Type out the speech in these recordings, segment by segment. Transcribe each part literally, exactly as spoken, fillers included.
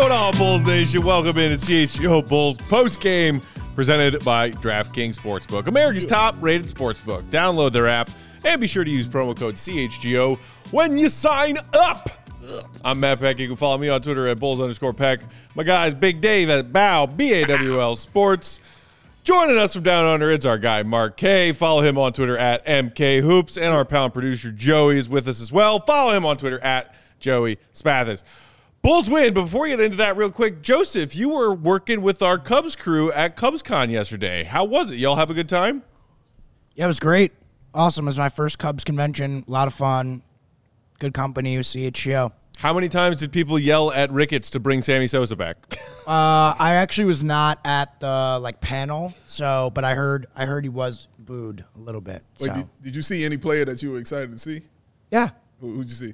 going on, Bulls Nation? Welcome in to C H G O Bulls post-game presented by DraftKings Sportsbook, America's top-rated sportsbook. Download their app and be sure to use promo code C H G O when you sign up. I'm Matt Peck. You can follow me on Twitter at Bulls underscore Peck. My guys, Big Dave at Bow, B A W L Sports. Joining us from down under, it's our guy, Mark K. Follow him on Twitter at M K Hoops. And our pound producer, Joey, is with us as well. Follow him on Twitter at Joey Spathis. Bulls win, but before we get into that real quick, Joseph, you were working with our Cubs crew at CubsCon yesterday. How was it? Y'all have a good time? Yeah, it was great. Awesome. It was my first Cubs convention. A lot of fun. Good company with C H G O. How many times did people yell at Ricketts to bring Sammy Sosa back? uh, I actually was not at the like panel, so but I heard I heard he was booed a little bit. Wait, so. did, did you see any player that you were excited to see? Yeah. Who, who'd you see?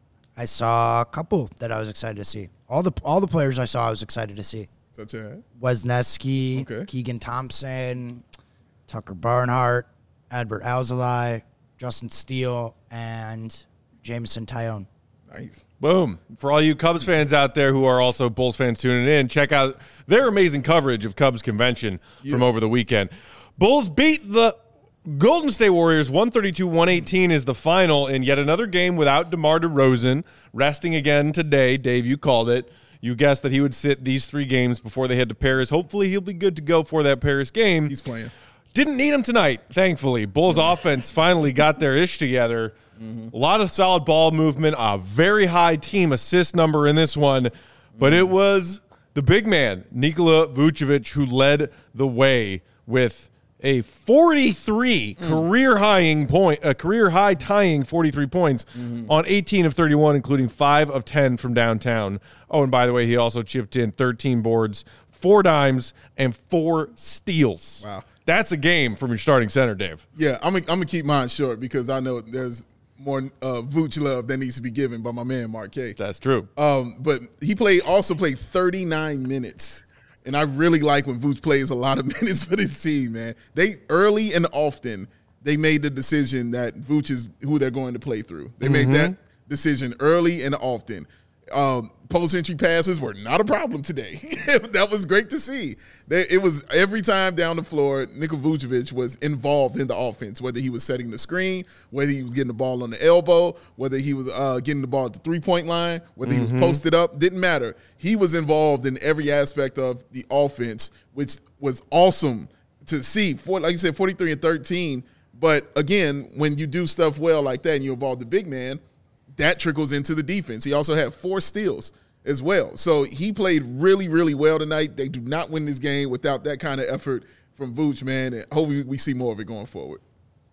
I saw a couple that I was excited to see. All the all the players I saw I was excited to see. Such as? Wesneski, Okay. Keegan Thompson, Tucker Barnhart, Adbert Alzolay, Justin Steele, and Jameson Tyone. Nice. Boom. For all you Cubs fans out there who are also Bulls fans tuning in, check out their amazing coverage of Cubs convention yeah. from over the weekend. Bulls beat the Golden State Warriors. one thirty-two one eighteen is the final in yet another game without DeMar DeRozan. Resting again today. Dave, you called it. You guessed that he would sit these three games before they head to Paris. Hopefully he'll be good to go for that Paris game. He's playing. Didn't need him tonight, thankfully. Bulls offense finally got their ish together. Mm-hmm. A lot of solid ball movement, a very high team assist number in this one, but mm-hmm. it was the big man, Nikola Vucevic, who led the way with a forty-three mm. career high point, a career high tying forty-three points mm-hmm. on eighteen of thirty-one, including five of ten from downtown. Oh, and by the way, he also chipped in thirteen boards, four dimes, and four steals. Wow. That's a game from your starting center, Dave. Yeah, I'm going to keep mine short because I know there's more uh, Vooch love that needs to be given by my man, Mark K. That's true. Um, but he played also played thirty-nine minutes. And I really like when Vooch plays a lot of minutes for this team, man. They early and often, they made the decision that Vooch is who they're going to play through. They mm-hmm. made that decision early and often. Um, post-entry passes were not a problem today. That was great to see. They, it was every time down the floor, Nikola Vucevic was involved in the offense, whether he was setting the screen, whether he was getting the ball on the elbow, whether he was uh, getting the ball at the three-point line, whether mm-hmm. he was posted up, didn't matter. He was involved in every aspect of the offense, which was awesome to see. For, like you said, forty-three and thirteen. But, again, when you do stuff well like that and you involve the big man, that trickles into the defense. He also had four steals as well. So he played really, really well tonight. They do not win this game without that kind of effort from Vooch, man. And hopefully we see more of it going forward.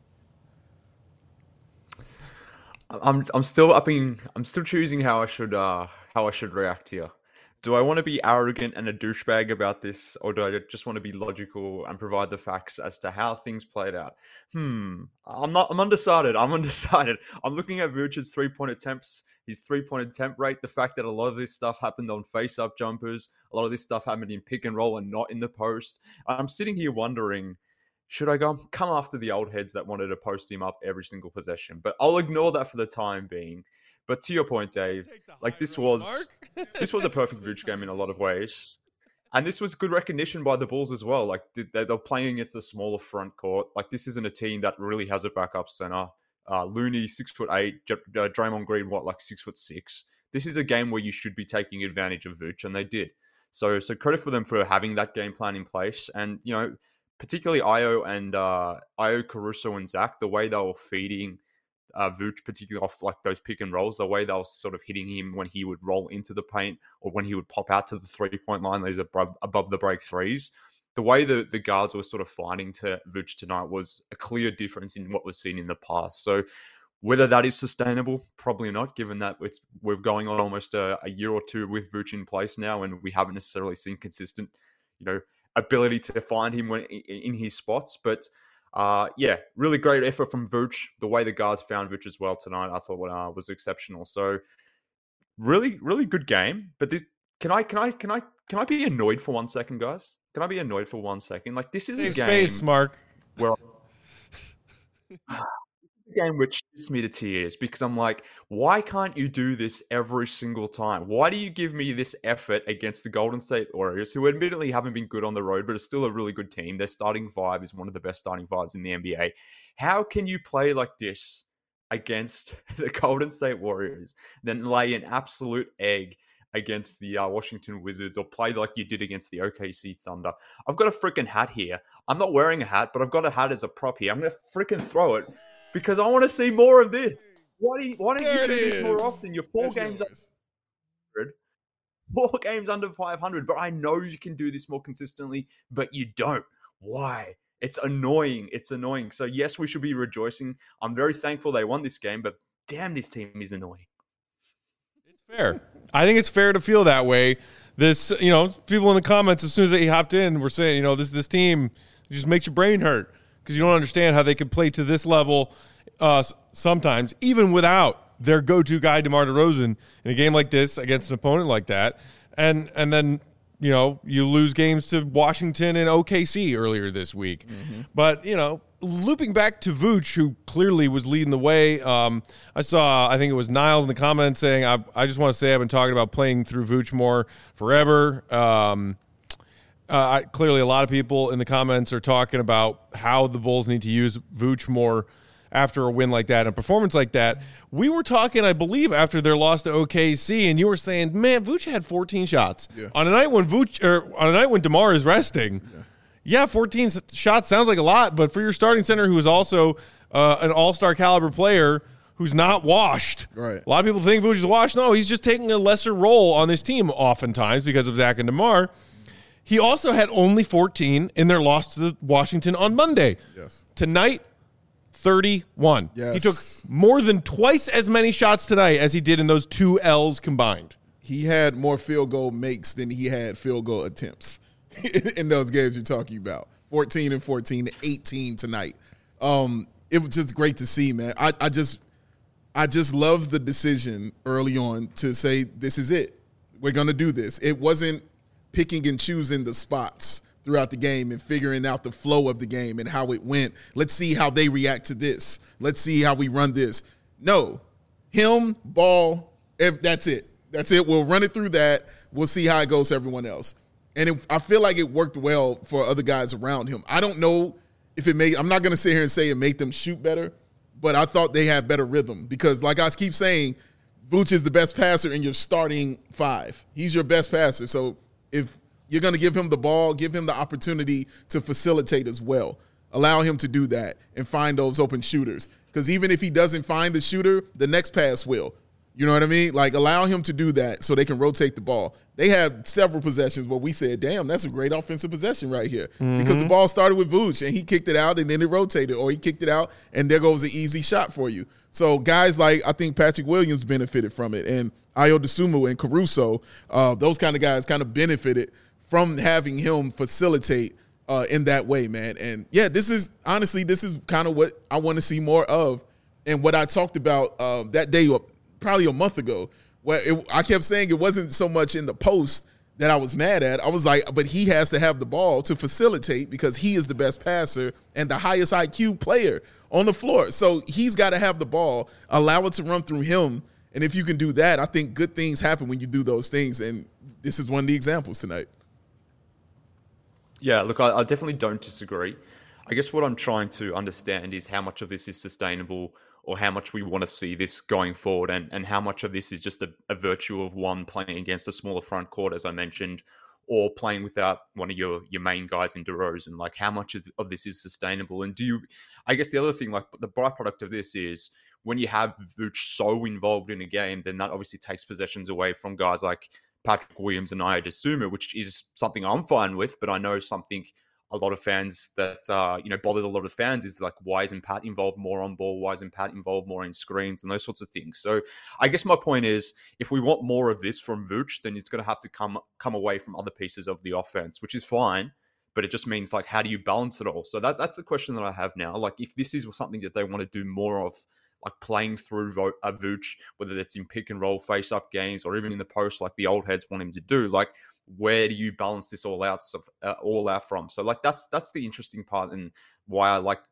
I'm I'm still upping. I'm still choosing how I should uh how I should react here. Do I want to be arrogant and a douchebag about this, or do I just want to be logical and provide the facts as to how things played out? Hmm. I'm not. I'm undecided. I'm undecided. I'm looking at Vucevic's three-point attempts, his three-point attempt rate, the fact that a lot of this stuff happened on face-up jumpers, a lot of this stuff happened in pick and roll and not in the post. I'm sitting here wondering, should I go come after the old heads that wanted to post him up every single possession? But I'll ignore that for the time being. But to your point, Dave, like this was this was a perfect Vooch game in a lot of ways. And this was good recognition by the Bulls as well. Like they're playing against a smaller front court. Like this isn't a team that really has a backup center. Uh, Looney, six foot eight, J- uh, Draymond Green, what, like six foot six. This is a game where you should be taking advantage of Vooch, and they did. So so credit for them for having that game plan in place. And, you know, particularly Io and uh, Io, Caruso and Zach, the way they were feeding Uh, Vooch, particularly off like those pick and rolls, the way they were sort of hitting him when he would roll into the paint or when he would pop out to the three-point line, those above, above the break threes. The way the, the guards were sort of finding to Vooch tonight was a clear difference in what was seen in the past. So whether that is sustainable, probably not, given that it's we're going on almost a, a year or two with Vooch in place now, and we haven't necessarily seen consistent, you know, ability to find him when in his spots. But Uh, yeah, really great effort from Vooch. The way the guards found Vooch as well tonight, I thought uh, was exceptional. So, really, really good game. But this, can I, can I, can I, can I be annoyed for one second, guys? Can I be annoyed for one second? Like this is Save a game space, Mark. where a game which me to tears because I'm like, why can't you do this every single time? Why do you give me this effort against the Golden State Warriors, who admittedly haven't been good on the road, but are still a really good team? Their starting five is one of the best starting fives in the N B A. How can you play like this against the Golden State Warriors, then lay an absolute egg against the uh, Washington Wizards, or play like you did against the O K C Thunder? I've got a freaking hat here. I'm not wearing a hat, but I've got a hat as a prop here. I'm going to freaking throw it because I want to see more of this. Why, do you, why don't There you do it this more is. often? You're four That's games yours. under four games under five hundred, but I know you can do this more consistently, but you don't. Why? It's annoying. It's annoying. So yes, we should be rejoicing. I'm very thankful they won this game, but damn, this team is annoying. It's fair. I think it's fair to feel that way. This, you know, people in the comments, as soon as they hopped in, were saying, you know, this this team just makes your brain hurt because you don't understand how they could play to this level uh, sometimes, even without their go-to guy, DeMar DeRozan, in a game like this against an opponent like that. And and then, you know, you lose games to Washington and O K C earlier this week. Mm-hmm. But, you know, looping back to Vooch, who clearly was leading the way, um, I saw, I think it was Niles in the comments saying, I, I just want to say I've been talking about playing through Vooch more forever. Um, uh, I, clearly, a lot of people in the comments are talking about how the Bulls need to use Vooch more after a win like that, a performance like that. We were talking, I believe, after their loss to O K C, and you were saying, man, Vooch had fourteen shots. Yeah. On a night when Vooch, or on a night when DeMar is resting, yeah. Yeah, fourteen shots sounds like a lot, but for your starting center who is also uh, an all-star caliber player who's not washed. Right. A lot of people think Vooch is washed. No, he's just taking a lesser role on this team oftentimes because of Zach and DeMar. He also had only fourteen in their loss to the Washington on Monday. Yes. Tonight, thirty-one. Yes. He took more than twice as many shots tonight as he did in those two L's combined. He had more field goal makes than he had field goal attempts in those games you're talking about. fourteen and fourteen, eighteen tonight. Um, it was just great to see, man. I, I just I just love the decision early on to say, this is it. We're going to do this. It wasn't picking and choosing the spots throughout the game and figuring out the flow of the game and how it went. Let's see how they react to this. Let's see how we run this. No. Him, ball, if that's it. That's it. We'll run it through that. We'll see how it goes to everyone else. And it, I feel like it worked well for other guys around him. I don't know if it made – I'm not going to sit here and say it made them shoot better, but I thought they had better rhythm because, like I keep saying, Vooch is the best passer in your starting five. He's your best passer. So if you're going to give him the ball, give him the opportunity to facilitate as well. Allow him to do that and find those open shooters. Because even if he doesn't find the shooter, the next pass will. You know what I mean? Like, allow him to do that so they can rotate the ball. They had several possessions where we said, damn, that's a great offensive possession right here. Mm-hmm. Because the ball started with Vooch, and he kicked it out, and then it rotated. Or he kicked it out, and there goes an easy shot for you. So guys like, I think Patrick Williams benefited from it, and Ayo Dosunmu and Caruso, uh, those kind of guys kind of benefited from having him facilitate uh, in that way, man. And, yeah, this is – honestly, this is kind of what I want to see more of and what I talked about uh, that day – probably a month ago, where it, I kept saying it wasn't so much in the post that I was mad at. I was like, but he has to have the ball to facilitate because he is the best passer and the highest I Q player on the floor. So he's got to have the ball, allow it to run through him. And if you can do that, I think good things happen when you do those things. And this is one of the examples tonight. Yeah, look, I, I definitely don't disagree. I guess what I'm trying to understand is how much of this is sustainable or how much we want to see this going forward, and, and how much of this is just a, a virtue of one playing against a smaller front court, as I mentioned, or playing without one of your, your main guys in DeRozan. Like, how much of, of this is sustainable? And do you, I guess the other thing, like the byproduct of this is when you have Vooch so involved in a game, then that obviously takes possessions away from guys like Patrick Williams and Ayo Dosunmu, which is something I'm fine with, but I know something a lot of fans that, uh, you know, bothered a lot of fans is like, why isn't Pat involved more on ball? Why isn't Pat involved more in screens and those sorts of things? So I guess my point is, if we want more of this from Vooch, then it's going to have to come come away from other pieces of the offense, which is fine. But it just means, like, how do you balance it all? So that that's the question that I have now. Like, if this is something that they want to do more of, like playing through Vo- a Vooch, whether that's in pick and roll face-up games or even in the post, like the old heads want him to do, like, where do you balance this all out, uh, all out from? So, like, that's that's the interesting part and why I like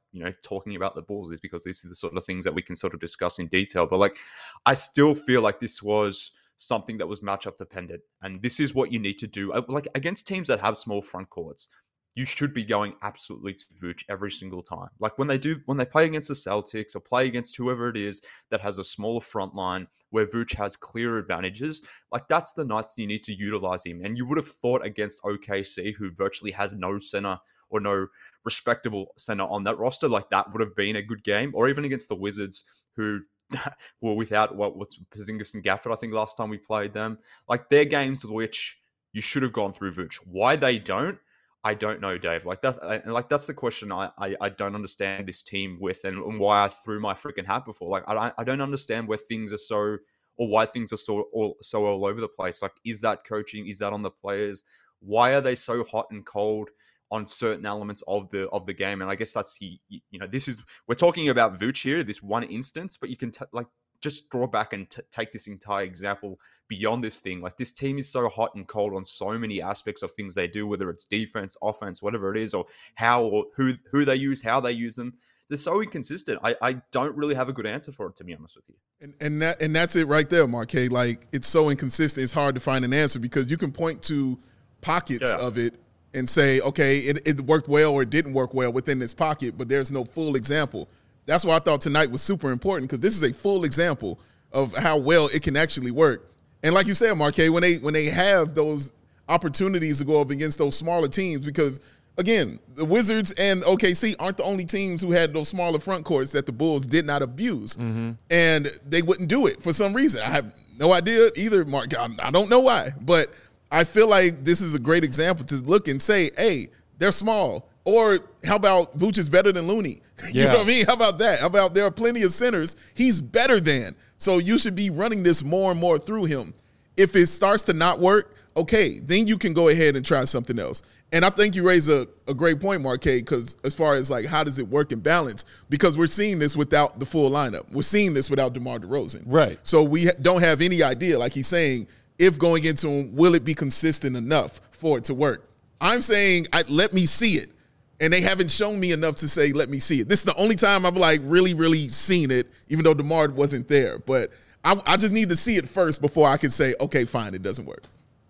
you know, talking about the Bulls is because this is the sort of things that we can sort of discuss in detail. But like, I still feel like this was something that was matchup dependent. And this is what you need to do. Like against teams that have small front courts, you should be going absolutely to Vooch every single time. Like when they do, when they play against the Celtics or play against whoever it is that has a smaller front line where Vooch has clear advantages, like that's the nights you need to utilize him. And you would have thought against O K C, who virtually has no center or no respectable center on that roster, like that would have been a good game. Or even against the Wizards, who were without what what's Porzingis and Gafford, I think last time we played them. Like they're games which you should have gone through Vooch. Why they don't, I don't know, Dave. Like that, and like that's the question I, I, I don't understand this team with, and, and why I threw my freaking hat before. Like I I don't understand where things are so, or why things are so all so all over the place. Like is that coaching? Is that on the players? Why are they so hot and cold on certain elements of the of the game? And I guess that's the you know this is we're talking about Vooch here, this one instance, but you can t- like just draw back and t- take this entire example beyond this thing. Like this team is so hot and cold on so many aspects of things they do, whether it's defense, offense, whatever it is, or how or who who they use, how they use them. They're so inconsistent. I, I don't really have a good answer for it, to be honest with you. And and that and that's it right there, Marquet. Like it's so inconsistent. It's hard to find an answer because you can point to pockets yeah. of it and say, okay, it, it worked well or it didn't work well within this pocket, but there's no full example. That's why I thought tonight was super important, because this is a full example of how well it can actually work. And like you said, Marquet, when they when they have those opportunities to go up against those smaller teams, because again, the Wizards and O K C aren't the only teams who had those smaller front courts that the Bulls did not abuse. Mm-hmm. And they wouldn't do it for some reason. I have no idea either, Mark. I don't know why. But I feel like this is a great example to look and say, hey, they're small. Or how about Vooch is better than Looney? You Yeah. know what I mean? How about that? How about there are plenty of centers he's better than? So you should be running this more and more through him. If it starts to not work, okay, then you can go ahead and try something else. And I think you raise a, a great point, Marquet, because as far as like how does it work in balance? Because we're seeing this without the full lineup. We're seeing this without DeMar DeRozan. Right. So we ha- don't have any idea, like he's saying, if going into him, will it be consistent enough for it to work? I'm saying, I, let me see it. And they haven't shown me enough to say, let me see it. This is the only time I've like really, really seen it, even though DeMar wasn't there. But I, I just need to see it first before I can say, okay, fine, it doesn't work.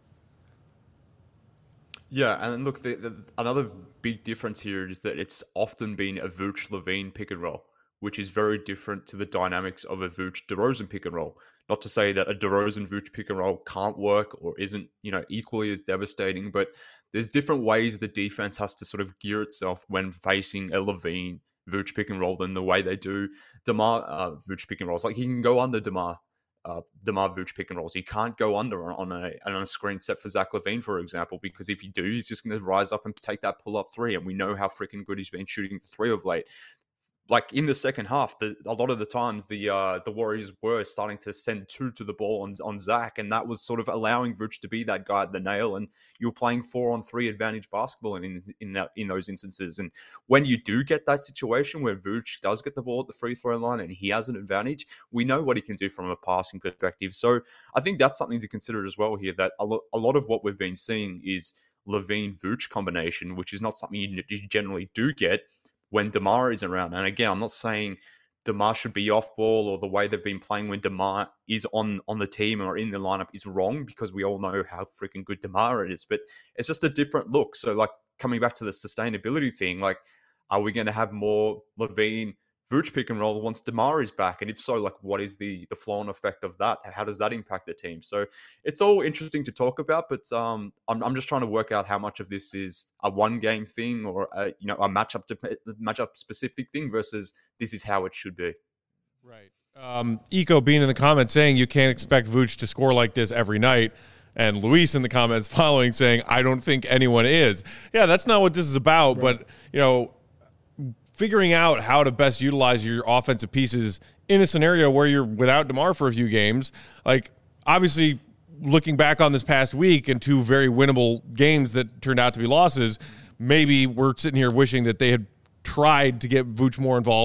Yeah, and look, the, the, another big difference here is that it's often been a Vooch-Levine pick and roll, which is very different to the dynamics of a Vooch-DeRozan pick and roll. Not to say that a DeRozan-Vooch pick and roll can't work or isn't, you know, equally as devastating, but there's different ways the defense has to sort of gear itself when facing a Levine Vooch pick and roll than the way they do DeMar uh, Vooch pick and rolls. Like he can go under DeMar uh, DeMar Vooch pick and rolls. He can't go under on a on a screen set for Zach LaVine, for example, because if you do, he's just going to rise up and take that pull up three, and we know how freaking good he's been shooting the three of late. Like in the second half, the, a lot of the times the uh, the Warriors were starting to send two to the ball on, on Zach, and that was sort of allowing Vooch to be that guy at the nail, and you're playing four on three advantage basketball in in that in those instances. And when you do get that situation where Vooch does get the ball at the free throw line and he has an advantage, we know what he can do from a passing perspective. So I think that's something to consider as well here. That a lot a lot of what we've been seeing is Levine Vooch combination, which is not something you generally do get when DeMar is around. And again, I'm not saying DeMar should be off ball or the way they've been playing when DeMar is on, on the team or in the lineup is wrong, because we all know how freaking good DeMar is, but it's just a different look. So like coming back to the sustainability thing, like, are we going to have more Levine Vooch pick and roll once DeMar is back? And if so, like, what is the the flow-on effect of that? How does that impact the team? So it's all interesting to talk about, but um, I'm I'm just trying to work out how much of this is a one-game thing or a, you know a matchup matchup specific thing versus this is how it should be. Right. Um, Eco being in the comments saying you can't expect Vooch to score like this every night. And Luis in the comments following saying, I don't think anyone is. Yeah, that's not what this is about. Right. But, you know, figuring out how to best utilize your offensive pieces in a scenario where you're without DeMar for a few games, like obviously looking back on this past week and two very winnable games that turned out to be losses, maybe we're sitting here wishing that they had tried to get Vooch more involved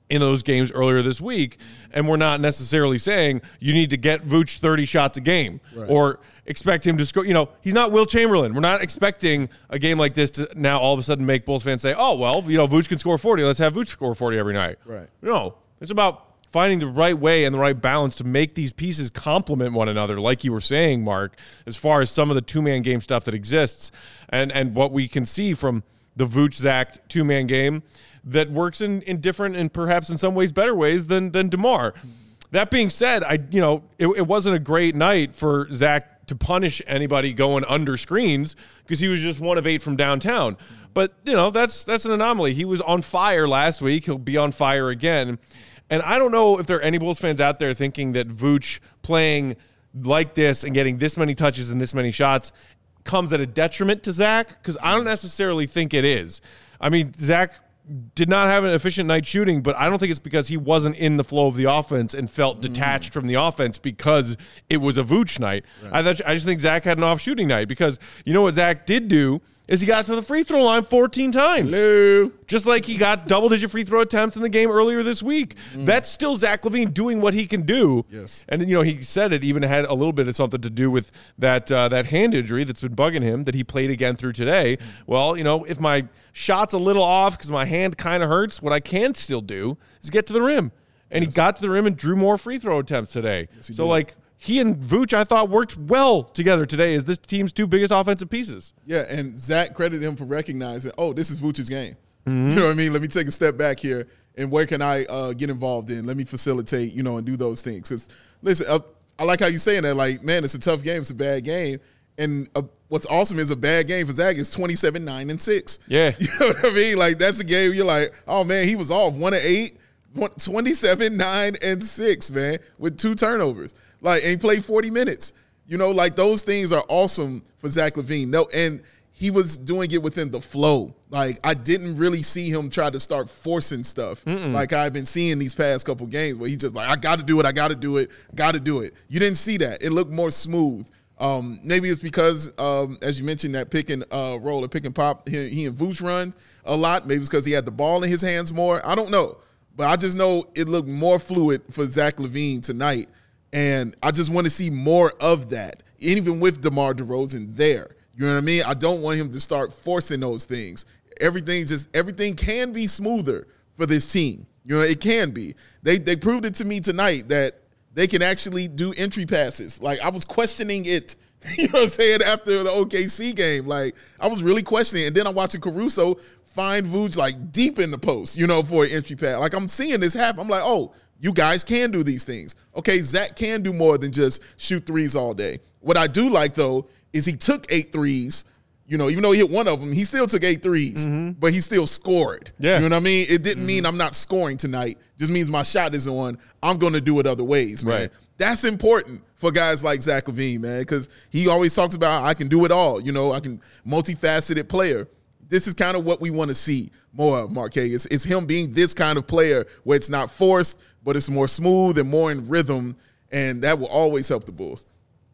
in those games earlier this week, and we're not necessarily saying you need to get Vooch thirty shots a game right. or expect him to score. You know, he's not Will Chamberlain. We're not expecting a game like this to now all of a sudden make Bulls fans say, oh, well, you know, Vooch can score forty. Let's have Vooch score forty every night. Right. No, it's about finding the right way and the right balance to make these pieces complement one another, like you were saying, Mark, as far as some of the two-man game stuff that exists and, and what we can see from the Vooch-Zach two-man game that works in, in different and perhaps in some ways better ways than than DeMar. That being said, I you know it, it wasn't a great night for Zach to punish anybody going under screens because he was just one of eight from downtown. But you know that's that's an anomaly. He was on fire last week. He'll be on fire again. And I don't know if there are any Bulls fans out there thinking that Vooch playing like this and getting this many touches and this many shots comes at a detriment to Zach, because I don't necessarily think it is. I mean, Zach did not have an efficient night shooting, but I don't think it's because he wasn't in the flow of the offense and felt detached mm. from the offense because it was a Vooch night. Right. I thought, I just think Zach had an off shooting night because you know what Zach did do is he got to the free throw line fourteen times. Hello. Just like he got double-digit free throw attempts in the game earlier this week. Mm. That's still Zach LaVine doing what he can do. Yes. And, you know, he said it even had a little bit of something to do with that uh, that hand injury that's been bugging him that he played again through today. Well, you know, if my shot's a little off because my hand kind of hurts, what I can still do is get to the rim. And yes. he got to the rim and drew more free throw attempts today. Yes, so, did. like... He and Vooch, I thought, worked well together today as this team's two biggest offensive pieces. Yeah, and Zach credited him for recognizing, oh, this is Vooch's game. Mm-hmm. You know what I mean? Let me take a step back here, and where can I uh, get involved in? Let me facilitate, you know, and do those things. Because, listen, uh, I like how you're saying that. Like, man, it's a tough game. It's a bad game. And uh, what's awesome is a bad game for Zach is twenty-seven, nine, and six. Yeah. You know what I mean? Like, that's a game you're like, oh, man, he was off. one of eight, twenty-seven, nine, and six, man, with two turnovers. Like, and he played forty minutes. You know, like, those things are awesome for Zach LaVine. No, and he was doing it within the flow. Like, I didn't really see him try to start forcing stuff Mm-mm. like I've been seeing these past couple games where he's just like, I got to do it, I got to do it, got to do it. You didn't see that. It looked more smooth. Um, maybe it's because, um, as you mentioned, that pick and uh, roll or pick and pop, he, he and Vooch run a lot. Maybe it's because he had the ball in his hands more. I don't know. But I just know it looked more fluid for Zach LaVine tonight. And I just want to see more of that, even with DeMar DeRozan there. You know what I mean? I don't want him to start forcing those things. Everything just everything can be smoother for this team. You know, it can be. They they proved it to me tonight that they can actually do entry passes. Like, I was questioning it, you know what I'm saying, after the O K C game. Like, I was really questioning it. And then I'm watching Caruso find Vooch, like, deep in the post, you know, for an entry pass. Like, I'm seeing this happen. I'm like, oh, you guys can do these things. Okay, Zach can do more than just shoot threes all day. What I do like, though, is he took eight threes. You know, even though he hit one of them, he still took eight threes, mm-hmm. but he still scored. Yeah. You know what I mean? It didn't mm-hmm. mean I'm not scoring tonight. It just means my shot isn't on. I'm going to do it other ways, man. Right. That's important for guys like Zach LaVine, man, because he always talks about I can do it all. You know, I can multifaceted player. This is kind of what we want to see more of, Marquez. It's, it's him being this kind of player where it's not forced, but it's more smooth and more in rhythm, and that will always help the Bulls.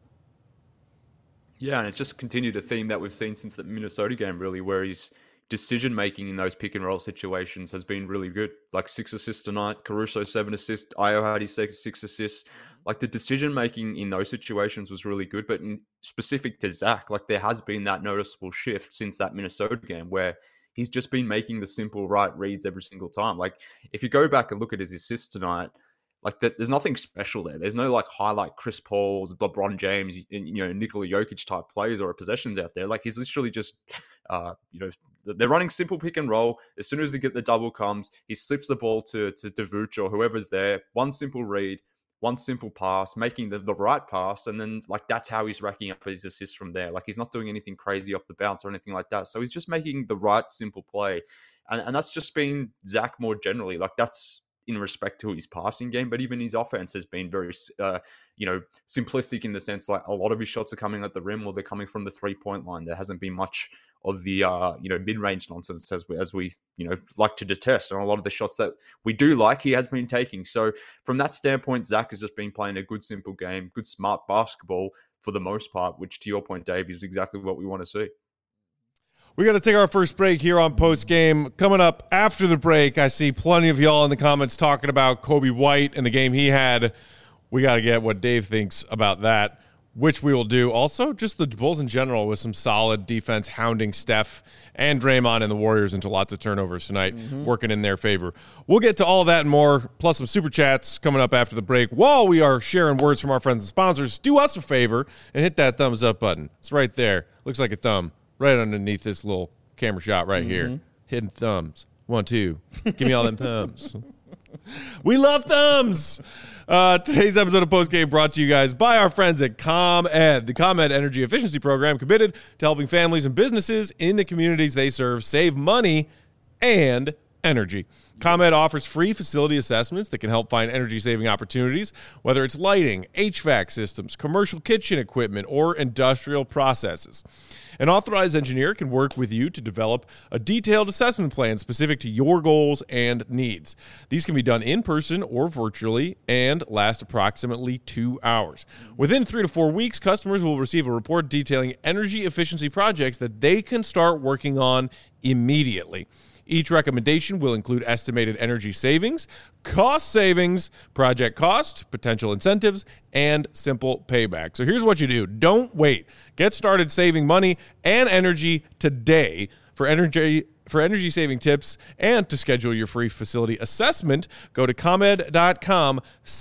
Yeah, and it's just continued a theme that we've seen since the Minnesota game, really, where his decision-making in those pick-and-roll situations has been really good. Like, six assists tonight, Caruso, seven assists, Ayo had his six, six assists. Like, the decision-making in those situations was really good, but in specific to Zach, like, there has been that noticeable shift since that Minnesota game where he's just been making the simple right reads every single time. Like, if you go back and look at his assists tonight, like, there's nothing special there. There's no, like, highlight Chris Paul, LeBron James, you know, Nikola Jokic type plays or possessions out there. Like, he's literally just, uh, you know, they're running simple pick and roll. As soon as they get the double comes, he slips the ball to to Vooch or whoever's there. One simple read, one simple pass, making the, the right pass, and then, like, that's how he's racking up his assists from there. Like, he's not doing anything crazy off the bounce or anything like that. So he's just making the right simple play. And, and that's just been Zach more generally. Like, that's in respect to his passing game, but even his offense has been very, uh, you know, simplistic in the sense, like, a lot of his shots are coming at the rim or they're coming from the three-point line. There hasn't been much of the, uh, you know, mid-range nonsense as we, as we, you know, like to detest. And a lot of the shots that we do like, he has been taking. So from that standpoint, Zach has just been playing a good, simple game, good, smart basketball for the most part, which, to your point, Dave, is exactly what we want to see. We got to take our first break here on Post Game. Coming up after the break, I see plenty of y'all in the comments talking about Kobe White and the game he had. We got to get what Dave thinks about that, which we will do. Also, just the Bulls in general with some solid defense hounding Steph and Draymond and the Warriors into lots of turnovers tonight, mm-hmm. working in their favor. We'll get to all that and more, plus some super chats coming up after the break. While we are sharing words from our friends and sponsors, do us a favor and hit that thumbs up button. It's right there. Looks like a thumb right underneath this little camera shot right mm-hmm. here. Hidden thumbs. One, two. Give me all them thumbs. We love thumbs. Uh, today's episode of Post Game brought to you guys by our friends at ComEd, the ComEd Energy Efficiency Program committed to helping families and businesses in the communities they serve save money and energy. ComEd offers free facility assessments that can help find energy-saving opportunities, whether it's lighting, H V A C systems, commercial kitchen equipment, or industrial processes. An authorized engineer can work with you to develop a detailed assessment plan specific to your goals and needs. These can be done in person or virtually and last approximately two hours. Within three to four weeks, customers will receive a report detailing energy efficiency projects that they can start working on immediately. Each recommendation will include estimated energy savings, cost savings, project cost, potential incentives, and simple payback. So here's what you do. Don't wait. Get started saving money and energy today. For energy for energy saving tips and to schedule your free facility assessment, go to ComEd.com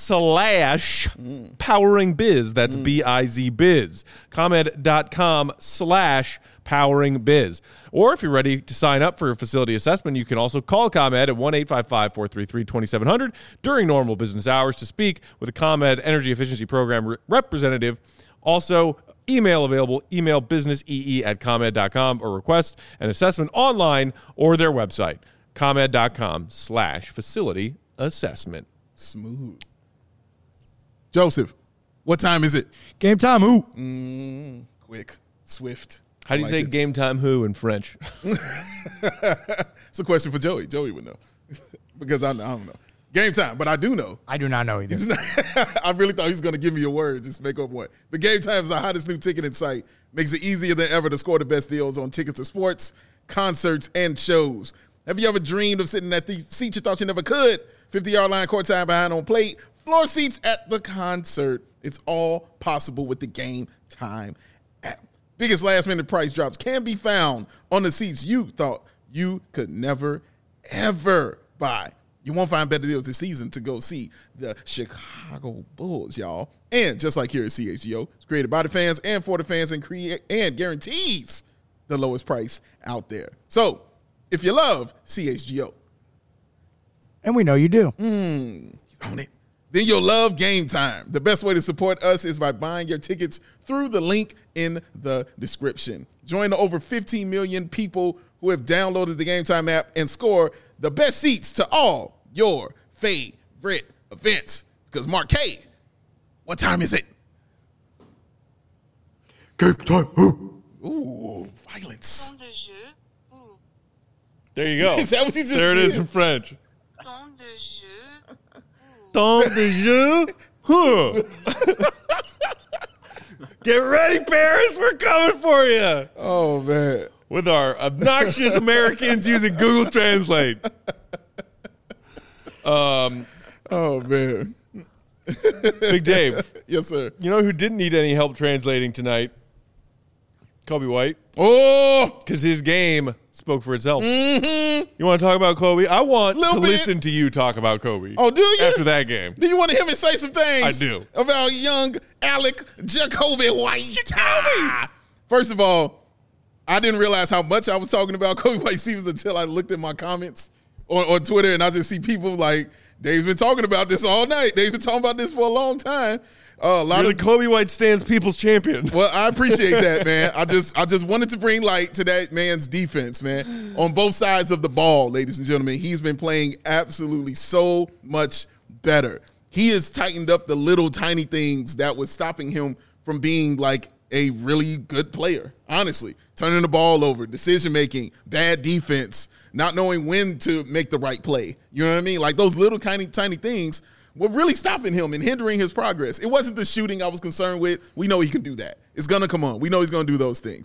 slash powering biz. That's mm. B I Z biz. ComEd.com slash powering biz. Or if you're ready to sign up for a facility assessment, you can also call ComEd at one eight five five, four three three, two seven zero zero during normal business hours to speak with a ComEd Energy Efficiency Program re- representative. Also, email available, email businessee at ComEd dot com or request an assessment online or their website, ComEd.com slash facility assessment. Smooth. Joseph, what time is it? Game time, who? Mm, quick, swift. How do you like say it. game time who in French? It's a question for Joey. Joey would know because I, I don't know. Game time, but I do know. I do not know either. I really thought he was going to give me a word, just make up one. But Game Time is the hottest new ticketing site. Makes it easier than ever to score the best deals on tickets to sports, concerts, and shows. Have you ever dreamed of sitting at the seat you thought you never could? fifty-yard line, courtside, behind on plate, floor seats at the concert. It's all possible with the Game Time app. Biggest last-minute price drops can be found on the seats you thought you could never, ever buy. You won't find better deals this season to go see the Chicago Bulls, y'all. And just like here at C H G O, it's created by the fans and for the fans and create and guarantees the lowest price out there. So if you love C H G O, and we know you do, mm, you own it, then you'll love Game Time. The best way to support us is by buying your tickets through the link in the description. Join the over fifteen million people who have downloaded the Game Time app and score the best seats to all your favorite events. Because Marquez, what time is it? Game time. Ooh, violence. There you go. Is that what you just there it did? is in French. Temps de jeu. Temps de jeu. Huh. Get ready, Paris. We're coming for you. Oh, man. With our obnoxious Americans using Google Translate. Um, oh, man. Big Dave. Yes, sir. You know who didn't need any help translating tonight? Kobe White. Oh! Because his game spoke for itself. Mm-hmm. You want to talk about Kobe? I want Little to bit. listen to you talk about Kobe. Oh, do you? After that game. Do you want to hear me say some things? I do. About young Alec Jacoby White. Jacoby! First of all, I didn't realize how much I was talking about Kobe White Stevens until I looked at my comments on, on Twitter, and I just see people like, Dave's been talking about this all night. Dave's been talking about this for a long time. Uh, a lot You're of the Kobe White stands people's champion. Well, I appreciate that, man. I just I just wanted to bring light to that man's defense, man. On both sides of the ball, ladies and gentlemen, he's been playing absolutely so much better. He has tightened up the little tiny things that was stopping him from being like a really good player, honestly. Turning the ball over, decision-making, bad defense, not knowing when to make the right play. You know what I mean? Like those little tiny, tiny things were really stopping him and hindering his progress. It wasn't the shooting I was concerned with. We know he can do that. It's going to come on. We know he's going to do those things.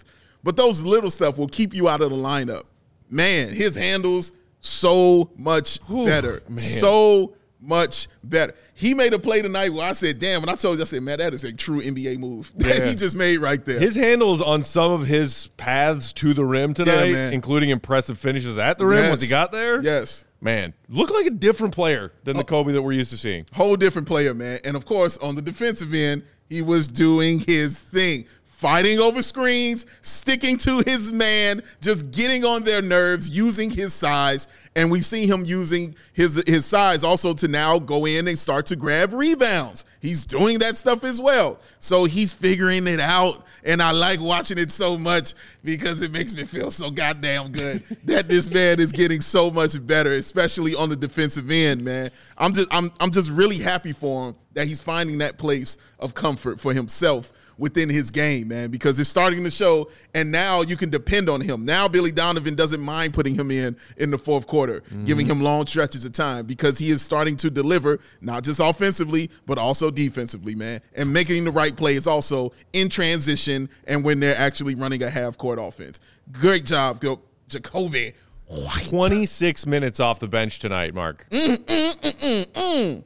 But those little stuff will keep you out of the lineup. Man, his handles so much Whew, better. Man. So much better. He made a play tonight where I said, damn, when I told you, I said, man, that is a true N B A move that Yeah. he just made right there. His handles on some of his paths to the rim tonight, man. including impressive finishes at the rim Yes. once he got there. Yes. Man, looked like a different player than the Oh. Kobe that we're used to seeing. Whole different player, man. And, of course, on the defensive end, he was doing his thing. Fighting over screens, sticking to his man, just getting on their nerves, using his size. And we've seen him using his his size also to now go in and start to grab rebounds. He's doing that stuff as well. So he's figuring it out. And I like watching it so much because it makes me feel so goddamn good that this man is getting so much better, especially on the defensive end, man. I'm just I'm I'm just really happy for him that he's finding that place of comfort for himself within his game, man, because it's starting to show, and now you can depend on him. Now Billy Donovan doesn't mind putting him in in the fourth quarter, mm-hmm. giving him long stretches of time because he is starting to deliver, not just offensively, but also defensively, man, and making the right plays also in transition and when they're actually running a half-court offense. Great job, Jacoby White. twenty-six minutes off the bench tonight, Mark. Mm, mm, mm, mm, mm.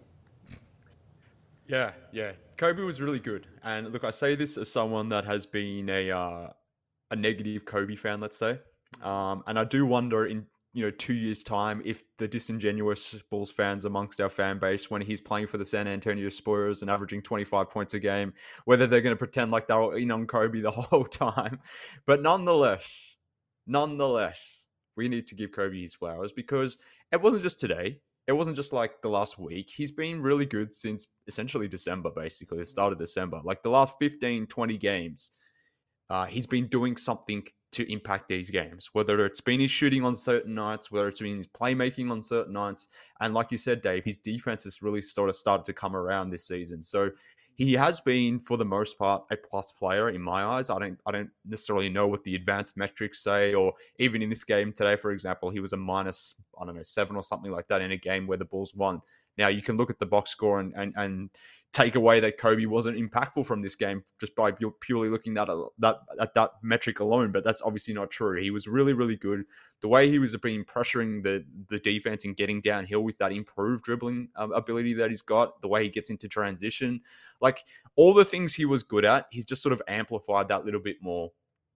Yeah, yeah. Kobe was really good. And look, I say this as someone that has been a uh, a negative Kobe fan, let's say. Um, and I do wonder in, you know, two years' time if the disingenuous Bulls fans amongst our fan base, when he's playing for the San Antonio Spurs and averaging twenty-five points a game, whether they're going to pretend like they were in on Kobe the whole time. But nonetheless, nonetheless, we need to give Kobe his flowers because it wasn't just today. It wasn't just like the last week. He's been really good since essentially December, basically, the start of December. Like the last fifteen, twenty games, uh, he's been doing something to impact these games, whether it's been his shooting on certain nights, whether it's been his playmaking on certain nights. And like you said, Dave, his defense has really sort of started to come around this season. So he has been, for the most part, a plus player in my eyes. I don't I don't necessarily know what the advanced metrics say, or even in this game today, for example, he was a minus, I don't know, seven or something like that in a game where the Bulls won. Now, you can look at the box score and and, and take away that Kobe wasn't impactful from this game just by purely looking at that, at that metric alone, but that's obviously not true. He was really, really good. The way he was being pressuring the, the defense and getting downhill with that improved dribbling um, ability that he's got, the way he gets into transition, like all the things he was good at, he's just sort of amplified that little bit more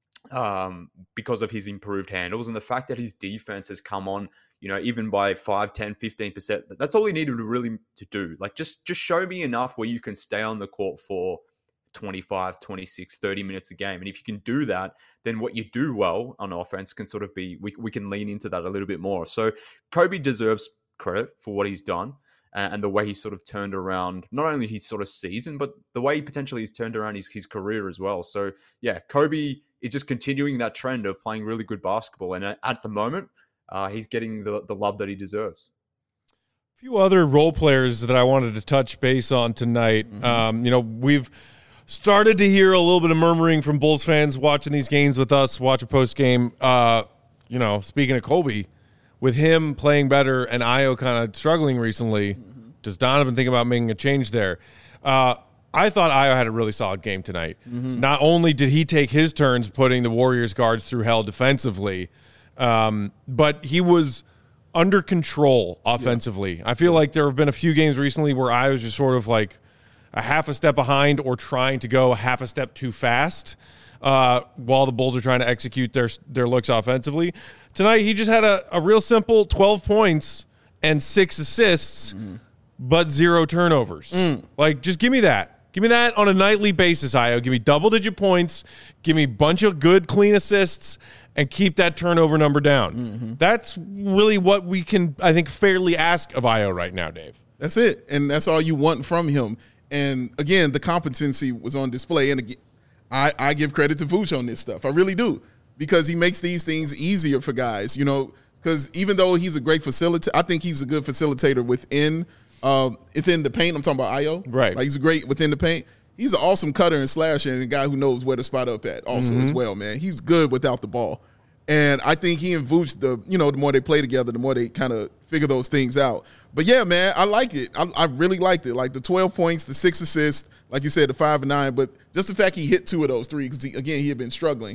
um, because of his improved handles and the fact that his defense has come on, you know, even by five, ten, fifteen percent. That's all he needed to really to do. Like, just, just show me enough where you can stay on the court for twenty-five, twenty-six, thirty minutes a game. And if you can do that, then what you do well on offense can sort of be, we, we can lean into that a little bit more. So Kobe deserves credit for what he's done and, and the way he sort of turned around, not only his sort of season, but the way he potentially has turned around his, his career as well. So yeah, Kobe is just continuing that trend of playing really good basketball. And at, at the moment, Uh, he's getting the, the love that he deserves. A few other role players that I wanted to touch base on tonight. Mm-hmm. Um, you know, we've started to hear a little bit of murmuring from Bulls fans watching these games with us, watch a post game. Uh, you know, speaking of Kobe, with him playing better and Ayo kind of struggling recently, mm-hmm. does Donovan think about making a change there? Uh, I thought Ayo had a really solid game tonight. Mm-hmm. Not only did he take his turns putting the Warriors guards through hell defensively, Um, but he was under control offensively. Yeah. I feel like there have been a few games recently where I was just sort of like a half a step behind or trying to go a half a step too fast uh, while the Bulls are trying to execute their their looks offensively. Tonight, he just had a, a real simple twelve points and six assists, mm. but zero turnovers. Mm. Like, just give me that. Give me that on a nightly basis, Ayo. Give me double-digit points. Give me a bunch of good, clean assists, and keep that turnover number down. Mm-hmm. That's really what we can, I think, fairly ask of Ayo right now, Dave. That's it, and that's all you want from him. And, again, the competency was on display. And, again, I, I give credit to Vooch on this stuff. I really do, because he makes these things easier for guys, you know, because even though he's a great facilitator, I think he's a good facilitator within um, within the paint. I'm talking about Ayo. Right. Like, he's great within the paint. He's an awesome cutter and slasher and a guy who knows where to spot up at also mm-hmm. as well, man. He's good without the ball. And I think he and Vooch, the you know, the more they play together, the more they kind of figure those things out. But, yeah, man, I like it. I, I really liked it. Like the twelve points, the six assists, like you said, the five and nine. But just the fact he hit two of those three, because, again, he had been struggling.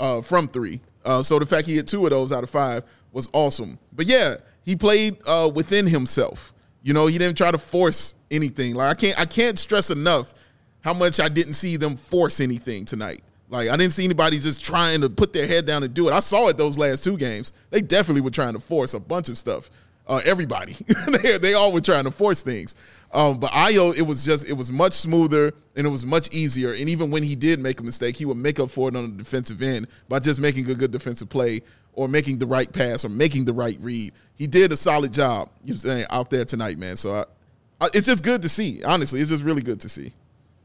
uh, from three. Uh, so the fact he hit two of those out of five was awesome. But yeah, he played uh, within himself. You know, he didn't try to force anything. Like I can't, I can't stress enough how much I didn't see them force anything tonight. Like I didn't see anybody just trying to put their head down and do it. I saw it those last two games. They definitely were trying to force a bunch of stuff. Uh, everybody, they, they all were trying to force things. Um, but Ayo, it was just, it was much smoother and it was much easier. And even when he did make a mistake, he would make up for it on the defensive end by just making a good defensive play or making the right pass or making the right read. He did a solid job, you saying, out there tonight, man. So I, I, it's just good to see. Honestly, it's just really good to see.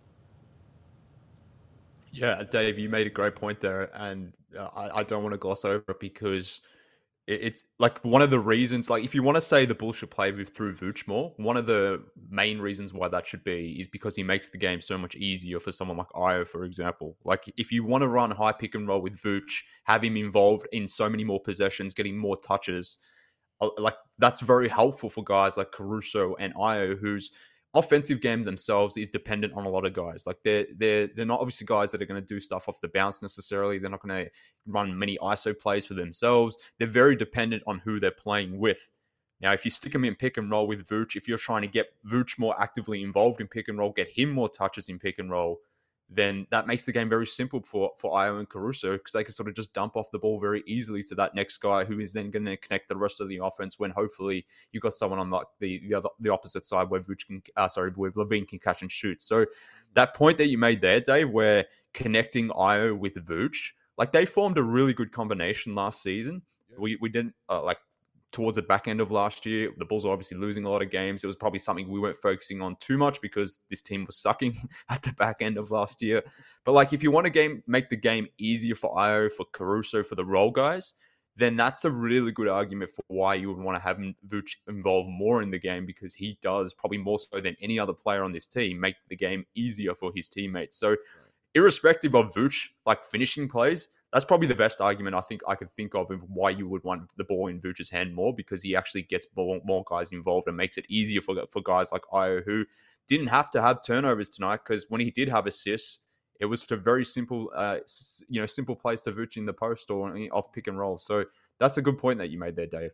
Yeah, Dave, you made a great point there, and uh, I, I don't want to gloss over it because it, it's like one of the reasons. Like, if you want to say the Bulls should play with, through Vooch more, one of the main reasons why that should be is because he makes the game so much easier for someone like Ayo, for example. Like, if you want to run high pick and roll with Vooch, have him involved in so many more possessions, getting more touches, uh, like that's very helpful for guys like Caruso and Ayo, who's offensive game themselves is dependent on a lot of guys. Like they're they're they're not obviously guys that are going to do stuff off the bounce necessarily. They're not going to run many I S O plays for themselves. They're very dependent on who they're playing with. Now, if you stick them in pick and roll with Vooch, if you're trying to get Vooch more actively involved in pick and roll, get him more touches in pick and roll, then that makes the game very simple for, for Ayo and Caruso because they can sort of just dump off the ball very easily to that next guy who is then going to connect the rest of the offense when hopefully you've got someone on like the the other the opposite side where Vooch can uh, sorry where LaVine can catch and shoot. So that point that you made there, Dave, where connecting Ayo with Vooch, like they formed a really good combination last season. Yes. We we didn't uh, like. Towards the back end of last year, the Bulls were obviously losing a lot of games. It was probably something we weren't focusing on too much because this team was sucking at the back end of last year. But like, if you want to game, make the game easier for Ayo, for Caruso, for the role guys, then that's a really good argument for why you would want to have Vooch involved more in the game because he does, probably more so than any other player on this team, make the game easier for his teammates. So irrespective of Vooch, like finishing plays, that's probably the best argument I think I could think of of why you would want the ball in Vooch's hand more because he actually gets more, more guys involved and makes it easier for for guys like Ayo who didn't have to have turnovers tonight because when he did have assists, it was for very simple, uh, you know, simple plays to Vooch in the post or off pick and roll. So that's a good point that you made there, Dave.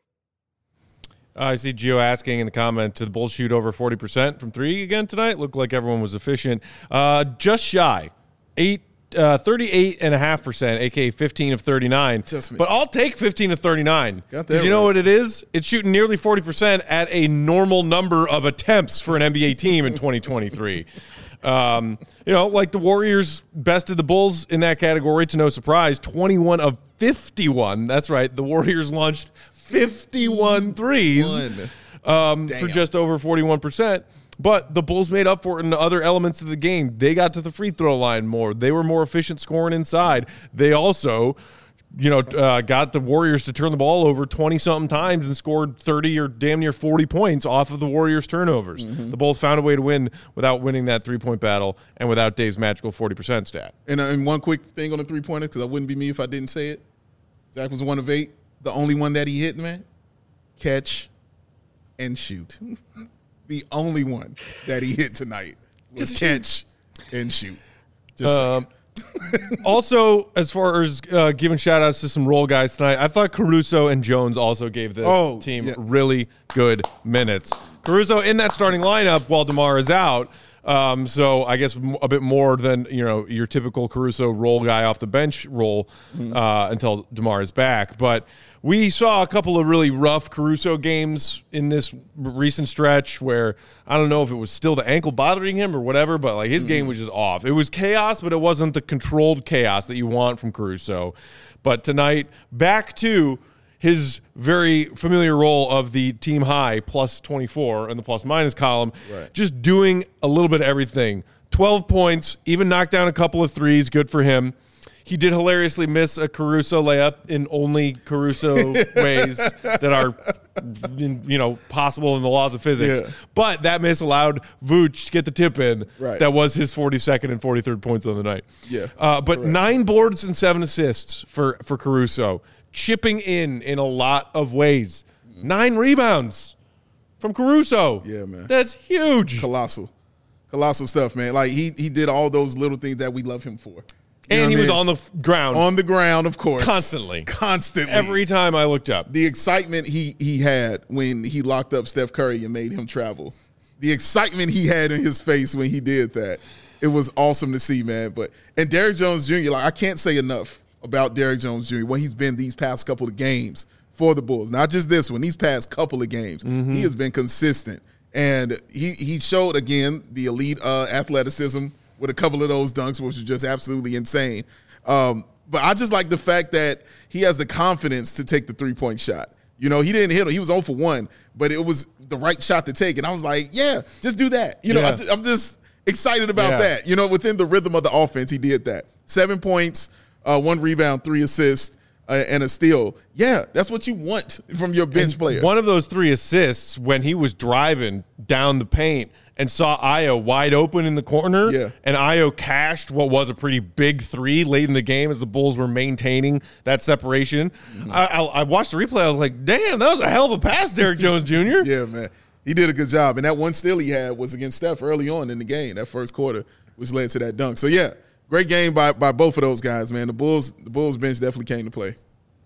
Uh, I see Gio asking in the comment, did the Bulls shoot over forty percent from three again tonight? Looked like everyone was efficient. Uh, just shy. Eight. Uh, thirty-eight point five percent, a k a fifteen of thirty-nine. But I'll take fifteen of thirty-nine. Got that right. You know what it is? It's shooting nearly forty percent at a normal number of attempts for an N B A team in twenty twenty-three. um, you know, like the Warriors bested the Bulls in that category to no surprise. twenty-one of fifty-one. That's right. The Warriors launched fifty-one threes um, for just over forty-one percent. But the Bulls made up for it in the other elements of the game. They got to the free throw line more. They were more efficient scoring inside. They also, you know, uh, got the Warriors to turn the ball over twenty-something times and scored thirty or damn near forty points off of the Warriors' turnovers. Mm-hmm. The Bulls found a way to win without winning that three-point battle and without Dave's magical forty percent stat. And, uh, and one quick thing on the three-pointers, because I wouldn't be me if I didn't say it. Zach was one of eight. The only one that he hit, man, catch and shoot. The only one that he hit tonight was catch and shoot. Just um, also, as far as uh, giving shout-outs to some role guys tonight, I thought Caruso and Jones also gave the oh, team yeah. really good minutes. Caruso in that starting lineup while DeMar is out. Um, so I guess a bit more than, you know, your typical Caruso role guy off the bench role uh, until DeMar is back. But we saw a couple of really rough Caruso games in this recent stretch where I don't know if it was still the ankle bothering him or whatever, but like his mm-hmm. game was just off. It was chaos, but it wasn't the controlled chaos that you want from Caruso. But tonight, back to his very familiar role of the team high plus twenty-four in the plus minus column, right. Just doing a little bit of everything. twelve points, even knocked down a couple of threes. Good for him. He did hilariously miss a Caruso layup in only Caruso ways that are, you know, possible in the laws of physics. Yeah. But that miss allowed Vooch to get the tip in. Right. That was his forty-second and forty-third points on the night. Yeah. Uh, but correct. Nine boards and seven assists for, for Caruso. Chipping in in a lot of ways. Nine rebounds from Caruso. Yeah, man. That's huge. Colossal. Colossal stuff, man. Like, he he did all those little things that we love him for. You know And he what I was mean? on the f- ground on the ground, of course, constantly. constantly. Every time I looked up. The excitement he he had when he locked up Steph Curry and made him travel. The excitement he had in his face when he did that. It was awesome to see, man. But and Derrick Jones Junior, like I can't say enough about Derrick Jones Junior, what he's been these past couple of games for the Bulls. Not just this one, these past couple of games. Mm-hmm. He has been consistent. And he he showed again the elite uh, athleticism with a couple of those dunks, which was just absolutely insane. Um, but I just like the fact that he has the confidence to take the three-point shot. You know, he didn't hit him. He was zero for one, but it was the right shot to take. And I was like, yeah, just do that. You know, Yeah. I, I'm just excited about Yeah. that. You know, within the rhythm of the offense, he did that. Seven points, uh, one rebound, three assists, uh, and a steal. Yeah, that's what you want from your bench player. One of those three assists when he was driving down the paint and saw Io wide open in the corner, Yeah. and Io cashed what was a pretty big three late in the game as the Bulls were maintaining that separation. Mm-hmm. I, I, I watched the replay. I was like, damn, that was a hell of a pass, Derrick Jones Junior Yeah, man. He did a good job. And that one steal he had was against Steph early on in the game, that first quarter, which led to that dunk. So, yeah, great game by, by both of those guys, man. The Bulls the Bulls bench definitely came to play.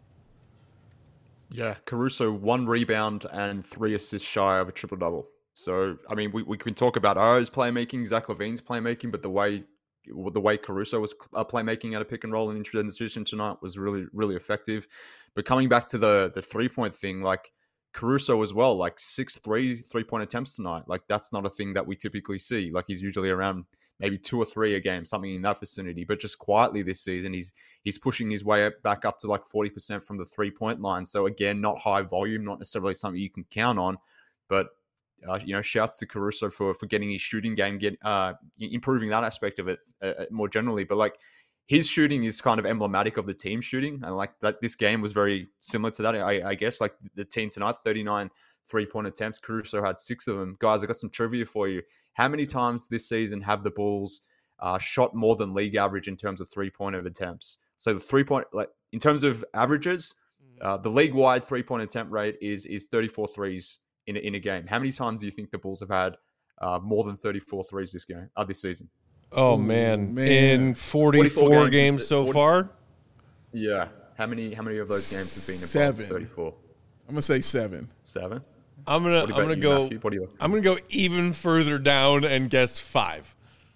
Yeah, Caruso one rebound and three assists shy of a triple double. So I mean, we, we can talk about Io's playmaking, Zach Levine's playmaking, but the way the way Caruso was uh, playmaking at a pick and roll and in transition tonight was really really effective. But coming back to the the three point thing, like Caruso as well, like six three three point attempts tonight. Like that's not a thing that we typically see. Like he's usually around maybe two or three a game, something in that vicinity. But just quietly this season, he's he's pushing his way back up to like forty percent from the three-point line. So again, not high volume, not necessarily something you can count on. But, uh, you know, shouts to Caruso for for getting his shooting game, get uh, improving that aspect of it uh, more generally. But like his shooting is kind of emblematic of the team shooting. And like that, this game was very similar to that, I, I guess. Like the team tonight, thirty-nine three-point attempts. Caruso had six of them. Guys, I got some trivia for you. How many times this season have the Bulls uh, shot more than league average in terms of three-point attempts? So the three-point, like in terms of averages, uh, the league-wide three-point attempt rate is is thirty-four threes in a, in a game. How many times do you think the Bulls have had uh, more than thirty-four threes this game, uh, this season? Oh, man. man. In forty-four, forty-four games, games, so forty far? Yeah. How many How many of those games have been above Seven. thirty-four? I'm going to say seven. Seven? I'm gonna What I'm about gonna you, go Matthew? What do you I'm gonna go even further down and guess five.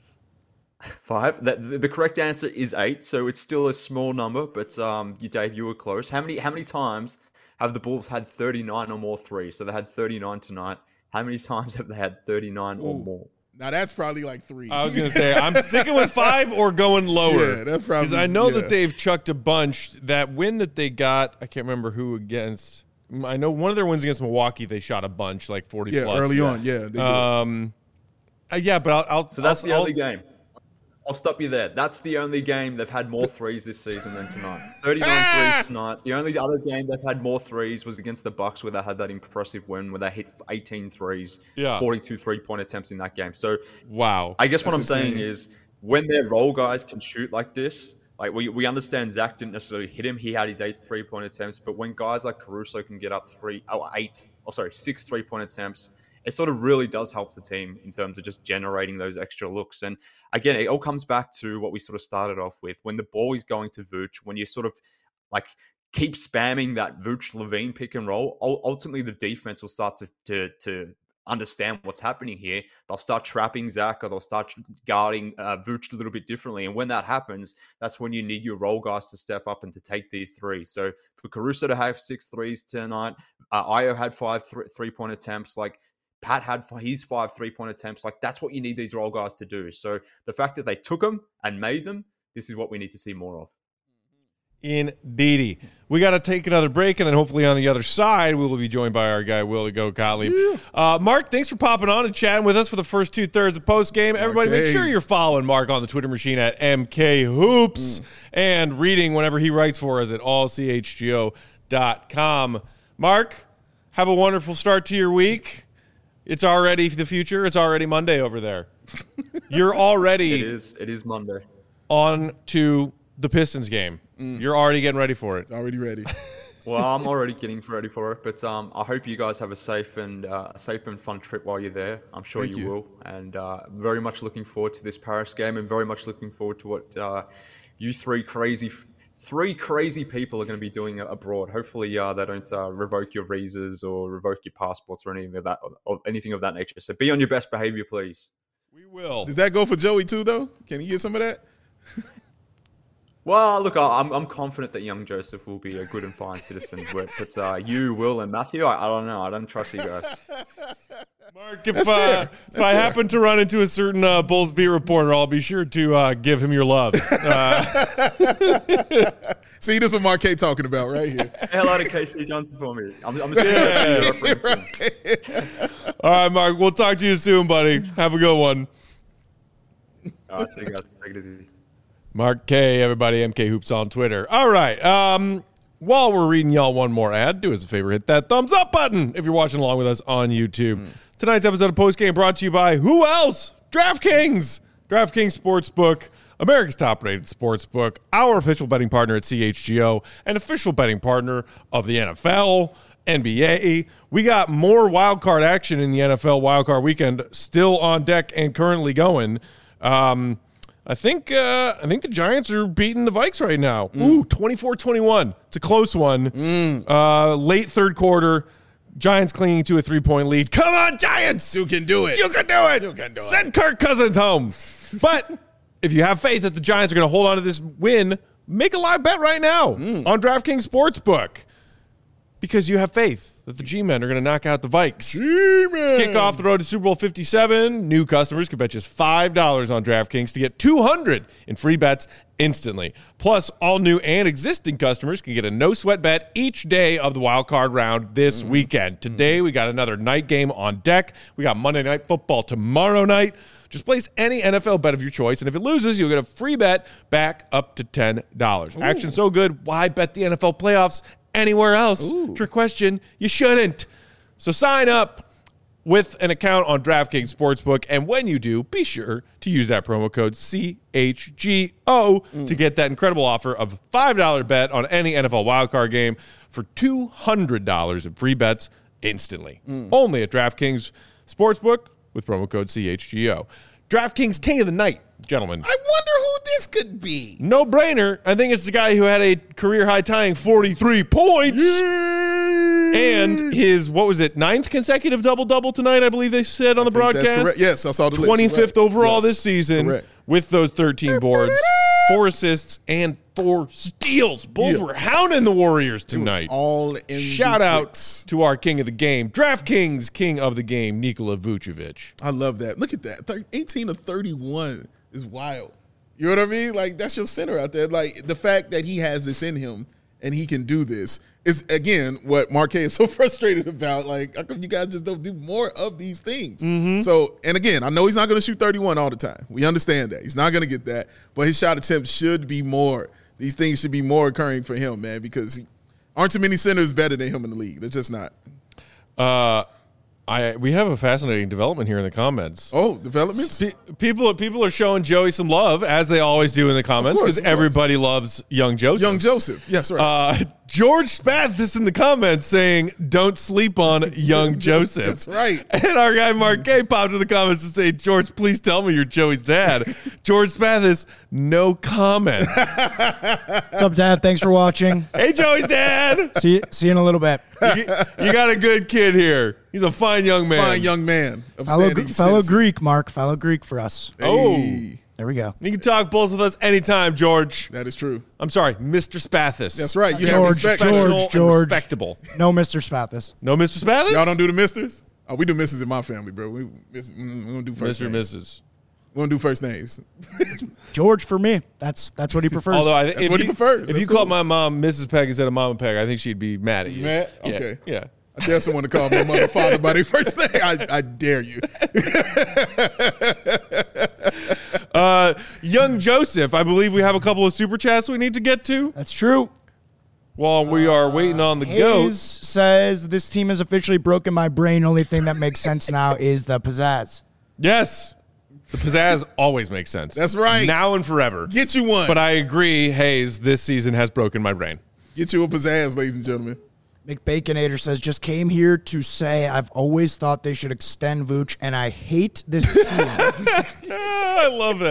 Five. That the, the correct answer is eight, so it's still a small number. But um, you, Dave, you were close. How many? How many times have the Bulls had thirty-nine or more threes? So they had thirty-nine tonight. How many times have they had thirty-nine or Ooh. more? Now, that's probably like three. I was gonna say I'm sticking with five or going lower. Yeah, that's probably- because I know yeah. that they've chucked a bunch. That win that they got, I can't remember who against. I know one of their wins against Milwaukee, they shot a bunch, like forty yeah, plus. early on. Yeah, they did. Um, uh, yeah, but I'll. I'll So that's I'll, the only I'll- game. I'll stop you there. That's the only game they've had more threes this season than tonight. thirty-nine threes tonight. The only other game they've had more threes was against the Bucks, where they had that impressive win where they hit eighteen threes, Yeah. forty-two three-point attempts in that game. So Wow. I guess what I'm That's saying insane. is when their role guys can shoot like this, like we, we understand Zach didn't necessarily hit him. He had his eight three-point attempts, but when guys like Caruso can get up three, oh, eight, oh, sorry, six three-point attempts, it sort of really does help the team in terms of just generating those extra looks. And again, it all comes back to what we sort of started off with. When the ball is going to Vooch, when you sort of like keep spamming that Vooch-Levine pick and roll, ul- ultimately the defense will start to, to, to understand what's happening here. They'll start trapping Zach, or they'll start guarding uh, Vooch a little bit differently. And when that happens, that's when you need your role guys to step up and to take these threes. So for Caruso to have six threes tonight, uh, Io had five th- three-point attempts, like Pat had his five three-point attempts. Like, that's what you need these role guys to do. So the fact that they took them and made them, this is what we need to see more of. Indeedy. We got to take another break, and then hopefully on the other side, we will be joined by our guy, Willie Go Gottlieb. Uh, Mark, thanks for popping on and chatting with us for the first two thirds of post game. Everybody, make Okay. sure you're following Mark on the Twitter machine at M K Hoops and reading whenever he writes for us at all c h g o dot com. Mark, have a wonderful start to your week. It's already the future. It's already Monday over there. You're It already is. It is Monday. on to the Pistons game. You're already getting ready for it. It's already ready. Well, I'm already getting ready for it, but um, I hope you guys have a safe and uh, a safe and fun trip while you're there. I'm sure Thank you, you. will, and uh, very much looking forward to this Paris game, and very much looking forward to what uh, you three crazy, three crazy people are going to be doing it abroad. Hopefully, uh, they don't uh, revoke your visas or revoke your passports or anything of that, or anything of that nature. So be on your best behavior, please. We will. Does that go for Joey too, though? Can he get some of that? Well, look, I- I'm I'm confident that young Joseph will be a good and fine citizen, but, but uh, you, Will, and Matthew, I, I don't know. I don't trust you guys. Mark, if, That's uh, fair. if That's I fair. happen to run into a certain uh, Bulls beat reporter, I'll be sure to uh, give him your love. Uh, See, this is what Marquet talking about right here. Say hello to K C Johnson for me. I'm, I'm assuming that's who you're referencing. all right, Mark, we'll talk to you soon, buddy. Have a good one. All right, see you guys. Take it easy. Mark K, everybody, M K Hoops on Twitter. All right. Um, while we're reading y'all one more ad, do us a favor, hit that thumbs up button if you're watching along with us on YouTube. Mm. Tonight's episode of Postgame brought to you by who else? DraftKings. DraftKings Sportsbook, America's top-rated sportsbook, our official betting partner at C H G O, and official betting partner of the N F L, N B A. We got more wildcard action in the N F L wildcard weekend still on deck and currently going. Um, I think uh, I think the Giants are beating the Vikes right now. Mm. Ooh, twenty-four twenty-one. It's a close one. Mm. Uh, late third quarter, Giants clinging to a three-point lead. Come on, Giants! You can do it. You can do it. You can do Send it. Kirk Cousins home. But if you have faith that the Giants are going to hold on to this win, make a live bet right now mm. on DraftKings Sportsbook. Because you have faith that the G-Men are going to knock out the Vikes. G-Men. To kick off the road to Super Bowl fifty-seven, new customers can bet just five dollars on DraftKings to get two hundred dollars in free bets instantly. Plus, all new and existing customers can get a no-sweat bet each day of the wild card round this mm-hmm. weekend. Today, we got another night game on deck. We got Monday Night Football tomorrow night. Just place any N F L bet of your choice, and if it loses, you'll get a free bet back up to ten dollars. Ooh. Action so good, why bet the N F L playoffs anywhere else? Ooh. Trick question, you shouldn't. So sign up with an account on DraftKings Sportsbook, and when you do, be sure to use that promo code C H G O mm. to get that incredible offer of a five dollar bet on any N F L wildcard game for two hundred dollars in free bets instantly. Mm. Only at DraftKings Sportsbook with promo code C H G O. DraftKings King of the Night, gentlemen. I wonder who this could be. No brainer. I think it's the guy who had a career high tying forty-three points. Yeah. And his, what was it, ninth consecutive double-double tonight, I believe they said on the broadcast. That's correct. Yes, I saw the list. twenty-fifth overall yes. this season Correct. with those thirteen boards, four assists, and four steals. Bulls yeah. were hounding the Warriors tonight. All in Shout the out tricks. to our king of the game, DraftKings king of the game, Nikola Vucevic. I love that. Look at that. eighteen of thirty-one is wild. You know what I mean? Like, that's your center out there. Like, the fact that he has this in him and he can do this is, again, what Marquet is so frustrated about. Like, how come you guys just don't do more of these things? Mm-hmm. So, and again, I know he's not going to shoot thirty-one all the time. We understand that. He's not going to get that. But his shot attempts should be more. These things should be more occurring for him, man, because he, aren't too many centers better than him in the league. They're just not. Uh, I we have a fascinating development here in the comments. Oh, developments? P- people people are showing Joey some love, as they always do in the comments, because everybody loves young Joseph. Young Joseph, yes, right. Uh, George Spath is in the comments saying, "Don't sleep on young Joseph." That's right. And our guy Mark K popped in the comments to say, "George, please tell me you're Joey's dad." George Spath is no comment. What's up, Dad? Thanks for watching. Hey, Joey's dad. See, see you in a little bit. You, you got a good kid here. He's a fine young man. Fine young man. Fellow, fellow Greek, Mark. Fellow Greek for us. Hey. Oh. There we go. You can talk Bulls with us anytime, George. That is true. I'm sorry, Mister Spathis. That's right. You George, have respect. George, George. Respectable. No Mister Spathis. No Mister Spathis? Y'all don't do the misters? Oh, we do misters in my family, bro. We, we don't do first Mister and names. Missus We don't do first names. George for me. That's that's what he prefers. Although I, That's if what you, he prefers. If That's you cool. called my mom Missus Peg instead of Mama Peg, I think she'd be mad at you. Mad? Yeah, Okay. Yeah. I dare someone to call my mother father by their first name. I, I dare you. uh, young Joseph, I believe we have a couple of super chats we need to get to That's true. while we are waiting on the goat. Hayes says this team has officially broken my brain. Only thing that makes sense now is the pizzazz. Yes. The pizzazz always makes sense. That's right. Now and forever. Get you one. But I agree, Hayes, this season has broken my brain. Get you a pizzazz, ladies and gentlemen. McBaconator says, just came here to say I've always thought they should extend Vooch, and I hate this team. I love that.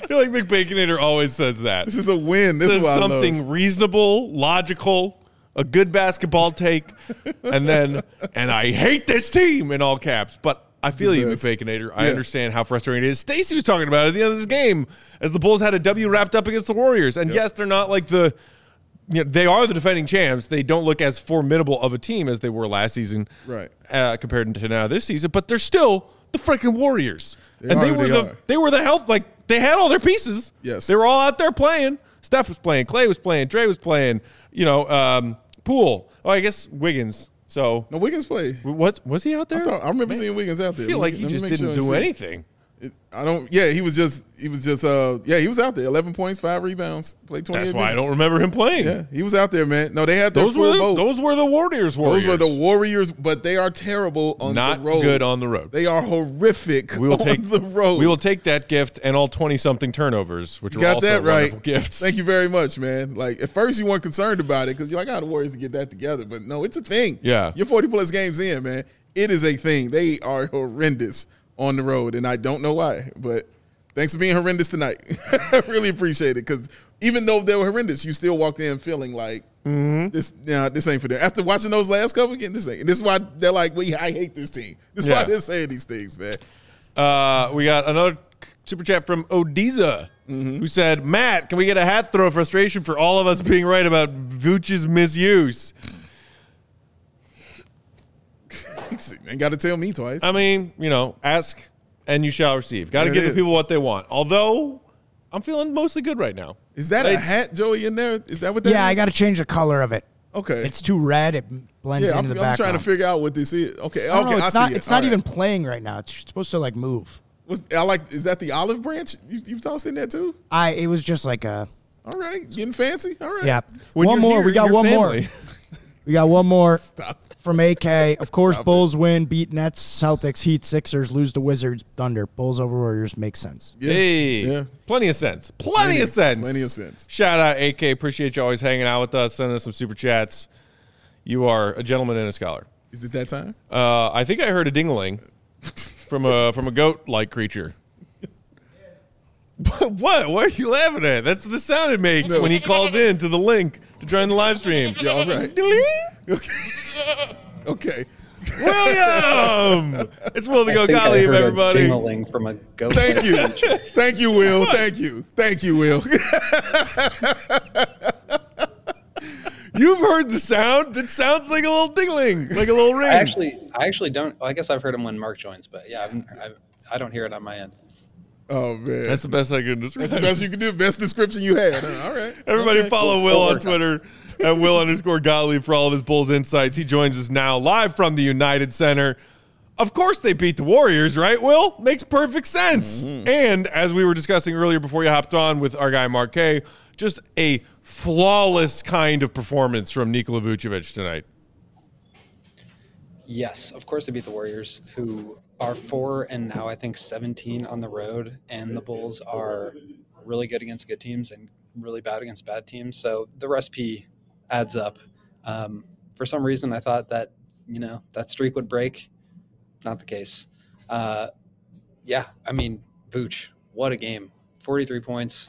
feel like McBaconator always says that. This is a win. This Says is what I something love. reasonable, logical, a good basketball take, and then, and I hate this team in all caps. But I feel you, best. McBaconator. I Yeah. understand how frustrating it is. Stacey was talking about it at the end of this game as the Bulls had a W wrapped up against the Warriors. And Yep. yes, they're not like the, you know, they are the defending champs. They don't look as formidable of a team as they were last season, Right. Uh, compared to now this season. But they're still the freaking Warriors, They and are they who were they the are. they were the health like they had all their pieces. Yes. They were all out there playing. Steph was playing, Clay was playing, Dre was playing. You know, um, Poole. Oh, I guess Wiggins. So No, Wiggins played. what was he out there? I, thought, I remember seeing Wiggins out there. I feel Let like me- he let me just make didn't sure and do see. anything. It, I don't. Yeah, he was just. He was just. Uh. Yeah, he was out there. Eleven points, five rebounds. Played twenty-eight. That's why I minutes. don't remember him playing. Yeah, he was out there, man. No, they had their Those full were the, boat. those were the Warriors. Warriors. Those were the Warriors, but they are terrible on Not the road. good on the road. They are horrific We will on take the road. We will take that gift and all twenty something turnovers, which You are got also that right. wonderful gifts. Thank you very much, man. Like at first you weren't concerned about it because you're like, "I got the Warriors to get that together," but no, it's a thing. Yeah. you're forty plus games in, man. It is a thing. They are horrendous on the road, and I don't know why, but. Thanks for being horrendous tonight. I really appreciate it because even though they were horrendous, you still walked in feeling like this. Nah, this ain't for them. After watching those last couple again, this ain't. This is why they're like, "We, I hate this team." This is Yeah. why they're saying these things, man. Uh, we got another super chat from Odiza, who said, "Matt, can we get a hat throw of frustration for all of us being right about Vooch's misuse?" Ain't got to tell me twice. I mean, you know, ask and you shall receive. Got to There it give the is. people what they want. Although I'm feeling mostly good right now. Is that a It's- hat, Joey? In there? Is that what that Yeah, I is? got to change the color of it. Okay. It's too red. It blends yeah, I'm, into the I'm background. trying to figure out what this is. Okay, I don't okay, know, I it's see not. it. It's All not right. even playing right now. It's supposed to like move. What's, I like. Is that the olive branch? You, you've tossed in there too. I. It was just like a. All right, getting fancy. All right. Yeah. When one you're more. here, We got your one family. more. We got one more Stop. from A K. Of course, Bulls win. Beat Nets, Celtics, Heat, Sixers. Lose to Wizards, Thunder. Bulls over Warriors makes sense. Yeah. Hey, Yeah. plenty of sense. Plenty, Plenty- of sense. plenty of sense. Shout out A K. Appreciate you always hanging out with us, sending us some super chats. You are a gentleman and a scholar. Is it that time? Uh, I think I heard a dingling from a from a goat-like creature. What? What? What are you laughing at? That's the sound it makes when he calls in to the link to join the live stream. Yeah. All right. Ding. Okay. okay. William! It's Will the I Goat think I Gottlieb, heard a everybody. ding-a-ling from a goat. Thank you. Thank you, Will. Thank you. Thank you, Will. You've heard the sound. It sounds like a little dingling, like a little ring. I actually, I actually don't. I guess I've heard him when Mark joins, but yeah, I've, I've, I don't hear it on my end. Oh man. That's the best I can describe. That's the best you can do. Best description you had. Huh? All right. Everybody Okay. follow We'll- Will we'll on work on Twitter at Will underscore Gottlieb for all of his Bulls insights. He joins us now live from the United Center. Of course they beat the Warriors, right, Will? Makes perfect sense. And as we were discussing earlier before you hopped on with our guy Mark K, just a flawless kind of performance from Nikola Vucevic tonight. Yes, of course they beat the Warriors, who are four and now I think seventeen on the road, and the Bulls are really good against good teams and really bad against bad teams. So the recipe adds up. Um, for some reason, I thought that you know that streak would break. Not the case. Uh, yeah, I mean, Vooch, what a game! forty-three points.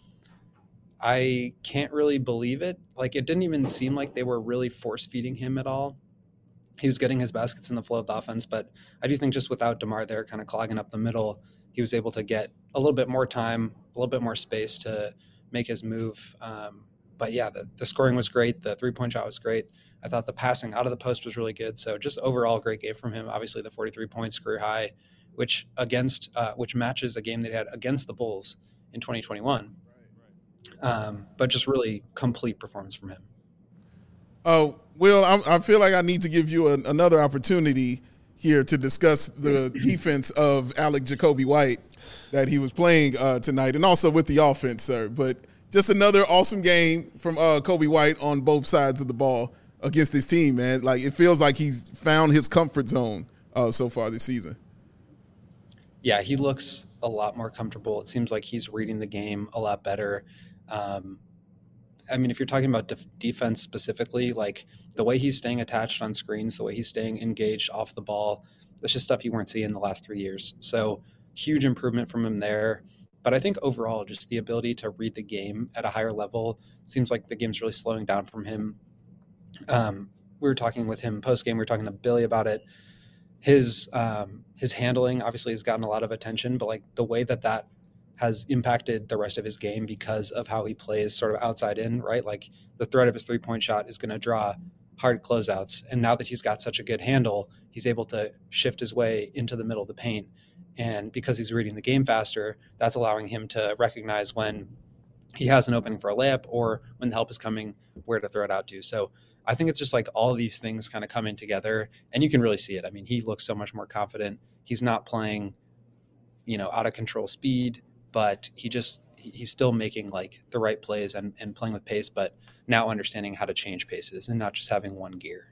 I can't really believe it. Like, it didn't even seem like they were really force feeding him at all. He was getting his baskets in the flow of the offense, but I do think just without DeMar there kind of clogging up the middle, he was able to get a little bit more time, a little bit more space to make his move. Um, but yeah, the, the scoring was great. The three-point shot was great. I thought the passing out of the post was really good. So just overall great game from him. Obviously the forty-three points career high, which against uh, which matches a game that he had against the Bulls in twenty twenty-one. Um, but just really complete performance from him. Oh, Will, I, I feel like I need to give you a, another opportunity here to discuss the defense of Alec Jacoby White that he was playing uh, tonight, and also with the offense, sir. But just another awesome game from uh, Kobe White on both sides of the ball against this team, man. Like, it feels like he's found his comfort zone uh, so far this season. Yeah, he looks a lot more comfortable. It seems like he's reading the game a lot better. Um, I mean, if you're talking about def- defense specifically, like the way he's staying attached on screens, the way he's staying engaged off the ball, that's just stuff you weren't seeing the last three years. So huge improvement from him there. But I think overall, just the ability to read the game at a higher level seems like the game's really slowing down from him. Um, we were talking with him post game. We were talking to Billy about it. His um, his handling obviously has gotten a lot of attention, but like the way that that has impacted the rest of his game because of how he plays sort of outside in, right? Like the threat of his three point shot is going to draw hard closeouts. And now that he's got such a good handle, he's able to shift his way into the middle of the paint. And because he's reading the game faster, that's allowing him to recognize when he has an opening for a layup or when the help is coming, where to throw it out to. So I think it's just like all of these things kind of coming together, and you can really see it. I mean, he looks so much more confident. He's not playing, you know, out of control speed, but he just, he's still making like the right plays and, and playing with pace, but now understanding how to change paces and not just having one gear.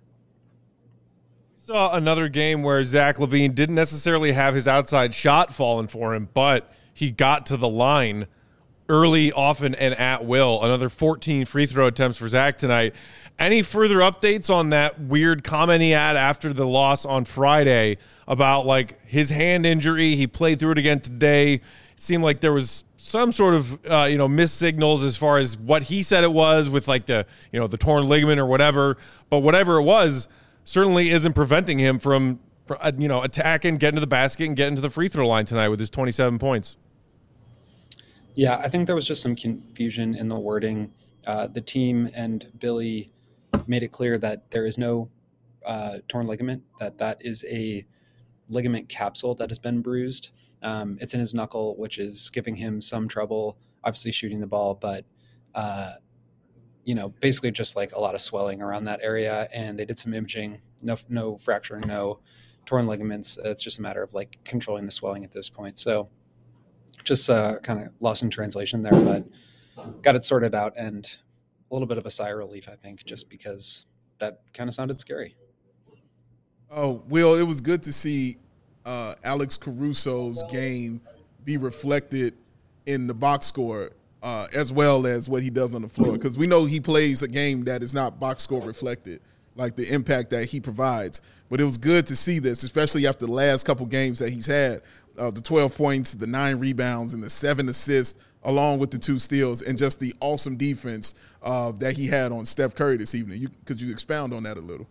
Saw another game where Zach LaVine didn't necessarily have his outside shot falling for him, but he got to the line early, often, and at will. Another fourteen free throw attempts for Zach tonight. Any further updates on that weird comment he had after the loss on Friday about like his hand injury? He played through it again today. It seemed like there was some sort of uh, you know missed signals as far as what he said it was with like the you know the torn ligament or whatever. But whatever it was, certainly isn't preventing him from you know attacking, getting to the basket, and getting to the free throw line tonight with his twenty-seven points. Yeah, I think there was just some confusion in the wording. Uh, the team and Billy made it clear that there is no uh, torn ligament, that that is a ligament capsule that has been bruised. Um, it's in his knuckle, which is giving him some trouble, obviously shooting the ball, but, uh, you know, basically just like a lot of swelling around that area. And they did some imaging, no, no fracture, no torn ligaments. It's just a matter of like controlling the swelling at this point. So just uh, kind of lost in translation there, but got it sorted out, and a little bit of a sigh of relief, I think, just because that kind of sounded scary. Oh, Will, it was good to see uh, Alex Caruso's game be reflected in the box score uh, as well as what he does on the floor, because we know he plays a game that is not box score reflected, like the impact that he provides. But it was good to see this, especially after the last couple games that he's had. Uh, the twelve points, the nine rebounds, and the seven assists, along with the two steals, and just the awesome defense uh, that he had on Steph Curry this evening. You, could you expound on that a little?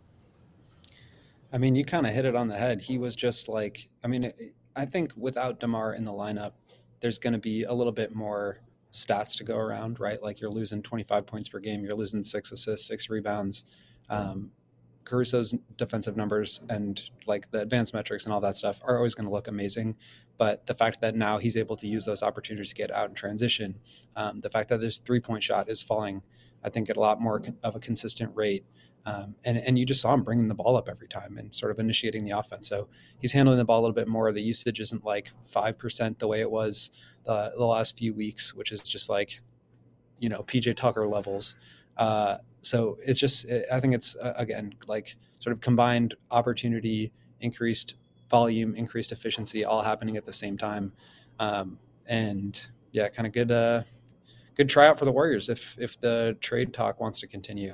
I mean, you kind of hit it on the head. He was just like, I mean, I think without DeMar in the lineup, there's going to be a little bit more stats to go around, right? Like you're losing twenty-five points per game, you're losing six assists, six rebounds. Um, Caruso's defensive numbers and like the advanced metrics and all that stuff are always going to look amazing. But the fact that now he's able to use those opportunities to get out in transition, um, the fact that his three point shot is falling, I think, at a lot more of a consistent rate. Um, and, and you just saw him bringing the ball up every time and sort of initiating the offense. So he's handling the ball a little bit more. The usage isn't like five percent the way it was uh, the last few weeks, which is just like, you know, P J Tucker levels. Uh, so it's just, I think it's, uh, again, like sort of combined opportunity, increased volume, increased efficiency, all happening at the same time. Um, and yeah, kind of good, uh, good tryout for the Warriors if, if the trade talk wants to continue.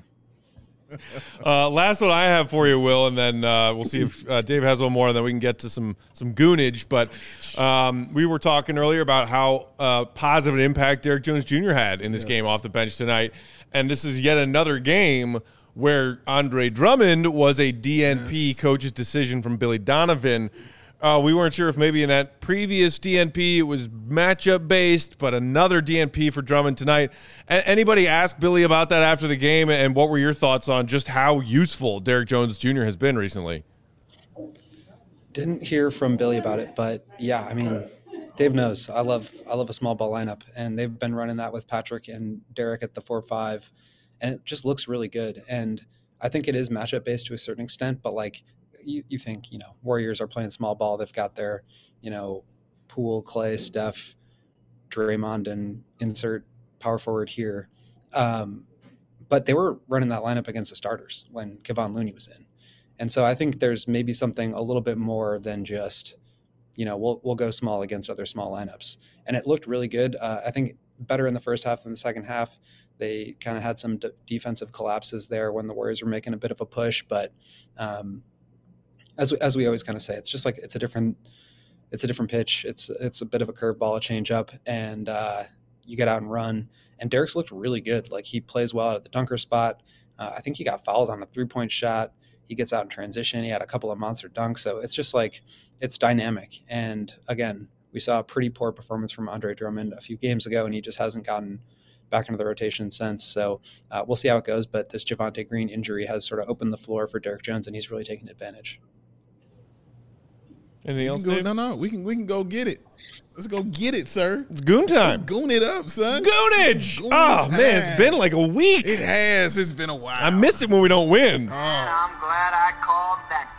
Uh, last one I have for you, Will, and then uh, we'll see if uh, Dave has one more, and then we can get to some some goonage. But um, we were talking earlier about how uh, positive an impact Derek Jones Junior had in this yes. game off the bench tonight, and this is yet another game where Andre Drummond was a D N P yes. coach's decision from Billy Donovan. Uh, we weren't sure if maybe in that previous D N P it was matchup based, but another D N P for Drummond tonight. A- anybody ask Billy about that after the game, and what were your thoughts on just how useful Derek Jones Junior has been recently? Didn't hear from Billy about it, but yeah, I mean, Dave knows I love I love a small ball lineup, and they've been running that with Patrick and Derek at the four five, and it just looks really good. And I think it is matchup based to a certain extent, but like. You, you think, you know, Warriors are playing small ball. They've got their, you know, Poole, Clay, Steph, Draymond, and insert power forward here. Um, but they were running that lineup against the starters when Kevon Looney was in. And so I think there's maybe something a little bit more than just, you know, we'll we'll go small against other small lineups. And it looked really good. Uh, I think better in the first half than the second half. They kind of had some d- defensive collapses there when the Warriors were making a bit of a push, but um, As we, as we always kind of say, it's just like it's a different it's a different pitch. It's it's a bit of a curveball, a changeup, and uh, you get out and run. And Derek's looked really good. Like, he plays well at the dunker spot. Uh, I think he got fouled on a three-point shot. He gets out in transition. He had a couple of monster dunks. So it's just like, it's dynamic. And again, we saw a pretty poor performance from Andre Drummond a few games ago, and he just hasn't gotten back into the rotation since. So uh, we'll see how it goes. But this Javonte Green injury has sort of opened the floor for Derek Jones, and he's really taking advantage. Anything else, Go, Dave? no, no, we can we can go get it. Let's go get it, sir. It's goon Let's time. goon it up, son. Goonage! Goon Oh, time. man, it's been like a week. It has. It's been a while. I miss it when we don't win. And I'm glad I called that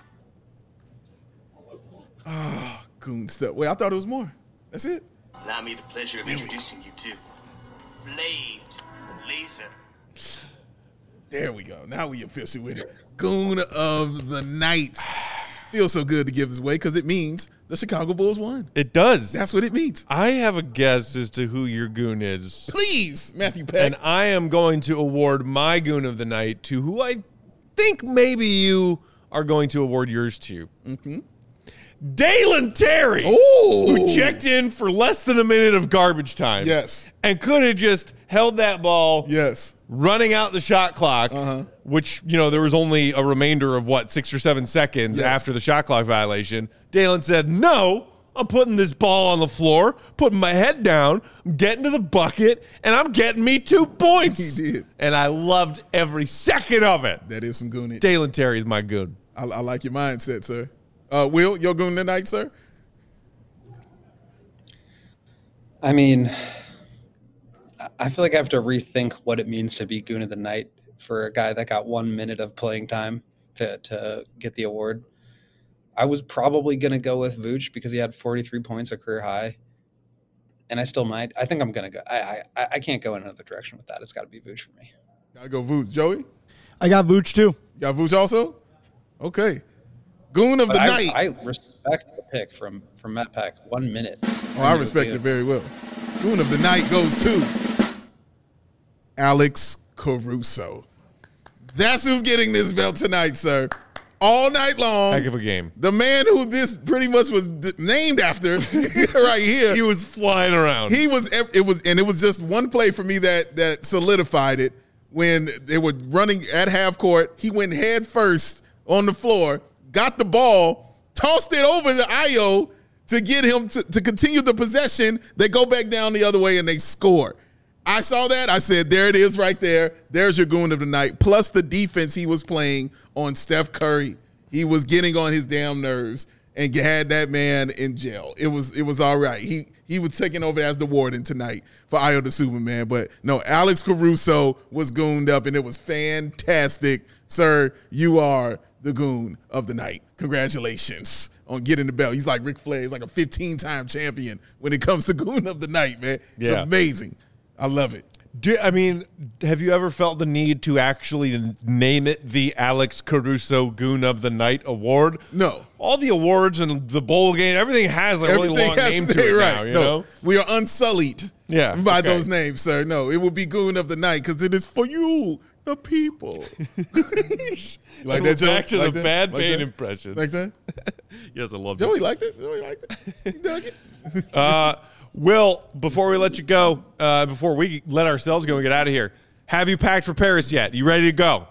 guy. Oh, goon stuff. Wait, I thought it was more. That's it. Allow me the pleasure of introducing you to Blade Laser. There we go. Now we official with it. Goon of the night. Feels so good to give this away because it means the Chicago Bulls won. It does. That's what it means. I have a guess as to who your goon is. Please, Matthew Peck. And I am going to award my goon of the night to who I think maybe you are going to award yours to. Mm-hmm. Dalen Terry, Ooh. who checked in for less than a minute of garbage time. Yes. And could have just held that ball Yes. running out the shot clock, Uh-huh. which, you know, there was only a remainder of, what, six or seven seconds Yes. after the shot clock violation. Dalen said, no, I'm putting this ball on the floor, putting my head down, I'm getting to the bucket, and I'm getting me two points. He did. And I loved every second of it. That is some goonage. Dalen Terry is my goon. I, I like your mindset, sir. Uh, Will, your goon tonight, sir? I mean, I feel like I have to rethink what it means to be goon of the night for a guy that got one minute of playing time to, to get the award. I was probably going to go with Vooch because he had forty-three points, a career high. And I still might. I think I'm going to go. I, I I can't go in another direction with that. It's got to be Vooch for me. Gotta go Vooch. Joey? I got Vooch too. You got Vooch also? Okay. Goon of But the I, night. I respect the pick from, from Matt Peck. One minute. oh, I respect it very well. Goon of the night goes to Alex Caruso. That's who's getting this belt tonight, sir. All night long. Heck of a game. The man who this pretty much was d- named after right here. He was flying around. He was it was and it was just one play for me that that solidified it when they were running at half court. He went head first on the floor, got the ball, tossed it over to Ayo to get him to, to continue the possession. They go back down the other way and they score. I saw that. I said, there it is right there. There's your goon of the night. Plus the defense he was playing on Steph Curry. He was getting on his damn nerves and had that man in jail. It was it was all right. He he was taking over as the warden tonight for Ayo Dosunmu, man. But no, Alex Caruso was gooned up, and it was fantastic. Sir, you are the goon of the night. Congratulations on getting the belt. He's like Ric Flair. He's like a fifteen-time champion when it comes to goon of the night, man. It's Yeah. amazing. I love it. Do, I mean, have you ever felt the need to actually name it the Alex Caruso Goon of the Night Award? No. All the awards and the bowl game, everything has a really Everything long has name to to be it right. now, you no, know? we are unsullied Yeah, by okay. those names, sir. No, it will be goon of the night because it is for you, the people. You like And that, Joe? we're back to Like the that? bad Like Bane that? impressions. Like that? Yes, I love Joey it. liked it. Joey liked it. He dug it. Uh, Will, before we let you go, uh, before we let ourselves go and get out of here, have you packed for Paris yet? You ready to go?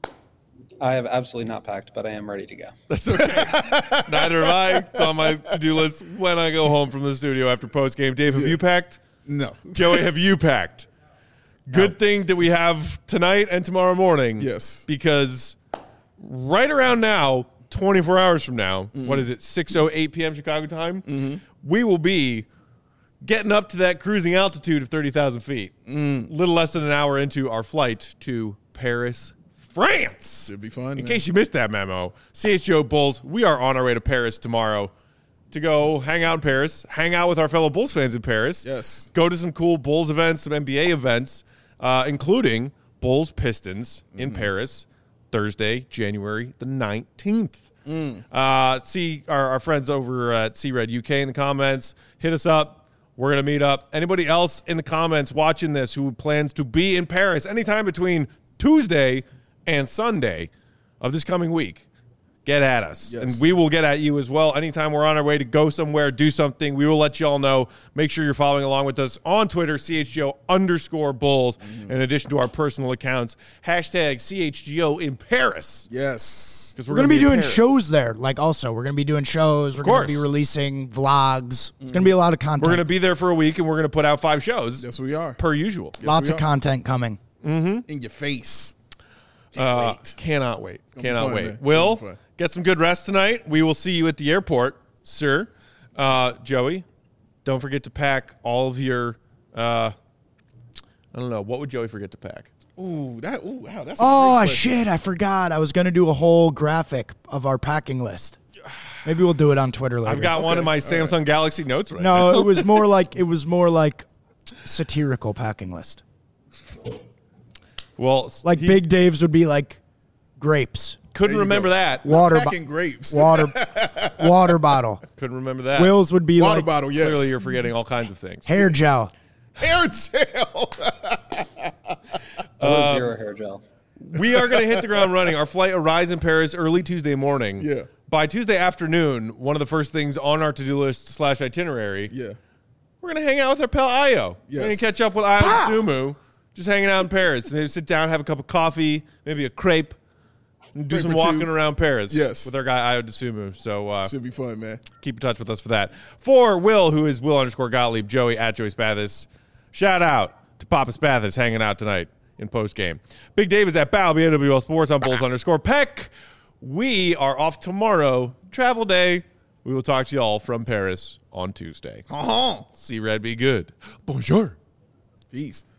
I have absolutely not packed, but I am ready to go. That's okay. Neither have I. It's on my to-do list when I go home from the studio after post-game. Dave, have you packed? No. Joey, have you packed? Good thing that we have tonight and tomorrow morning. Yes. Because right around now, twenty-four hours from now, Mm-hmm. what is it, six oh eight p.m. Chicago time, mm-hmm. we will be getting up to that cruising altitude of thirty thousand feet. A Mm. little less than an hour into our flight to Paris, France. Should be fun. In case you missed that memo, C H G O Bulls, we are on our way to Paris tomorrow to go hang out in Paris, hang out with our fellow Bulls fans in Paris. Yes. Go to some cool Bulls events, some N B A events, uh, including Bulls Pistons in Paris Thursday, January the nineteenth. Uh, see our, our friends over at C Red U K in the comments. Hit us up. We're going to meet up. Anybody else in the comments watching this who plans to be in Paris anytime between Tuesday and Sunday of this coming week, get at us. Yes. And we will get at you as well. Anytime we're on our way to go somewhere, do something, we will let you all know. Make sure you're following along with us on Twitter, C H G O underscore Bulls, Mm-hmm. in addition to our personal accounts. Hashtag C H G O in Paris. Yes. Because We're going to be in doing Paris. shows there. Like, also, we're going to be doing shows. We're going to be course. releasing vlogs. It's going to be a lot of content. We're going to be there for a week, and we're going to put out five shows Yes, we are. per usual. Lots we of are. content coming. In your face. Can't Uh, wait. cannot wait. gonna be Cannot fun, wait. man. Will, It's gonna be fun. get some good rest tonight. We will see you at the airport, sir. Uh, Joey, don't forget to pack all of your, uh, I don't know, what would Joey forget to pack? Ooh, that. Ooh, wow. That's. A Oh, great question. shit. I forgot. I was going to do a whole graphic of our packing list. Maybe we'll do it on Twitter later. I've got one in my Samsung Galaxy Notes right now. No, it was more like it was more like satirical packing list. Well, Like he Big Dave's would be like grapes, couldn't you remember go. that. water, bo- Packing grapes. water, water bottle. Couldn't remember that. Will's would be Water like bottle. Yes. Clearly, you're forgetting all kinds of things. hair gel. Hair gel. Oh, zero hair gel. We are going to hit the ground running. Our flight arrives in Paris early Tuesday morning. Yeah. By Tuesday afternoon, one of the first things on our to-do list slash itinerary, Yeah. we're going to hang out with our pal Io. We're going Yes. to catch up with Io Sumu, just hanging out in Paris. Maybe sit down, have a cup of coffee, maybe a crepe, and do Crepe some or walking two. around Paris Yes. with our guy Io DeSumo. So uh, Should be fun, man. keep in touch with us for that. For Will, who is Will underscore Gottlieb, Joey at Joey Spathis, shout out to Papa Spathis hanging out tonight in post game. Big Dave is at Bow, B A W L Sports on Bulls underscore Peck. We are off tomorrow, travel day. We will talk to y'all from Paris on Tuesday. Uh-huh. See Red, be good. Bonjour. Peace.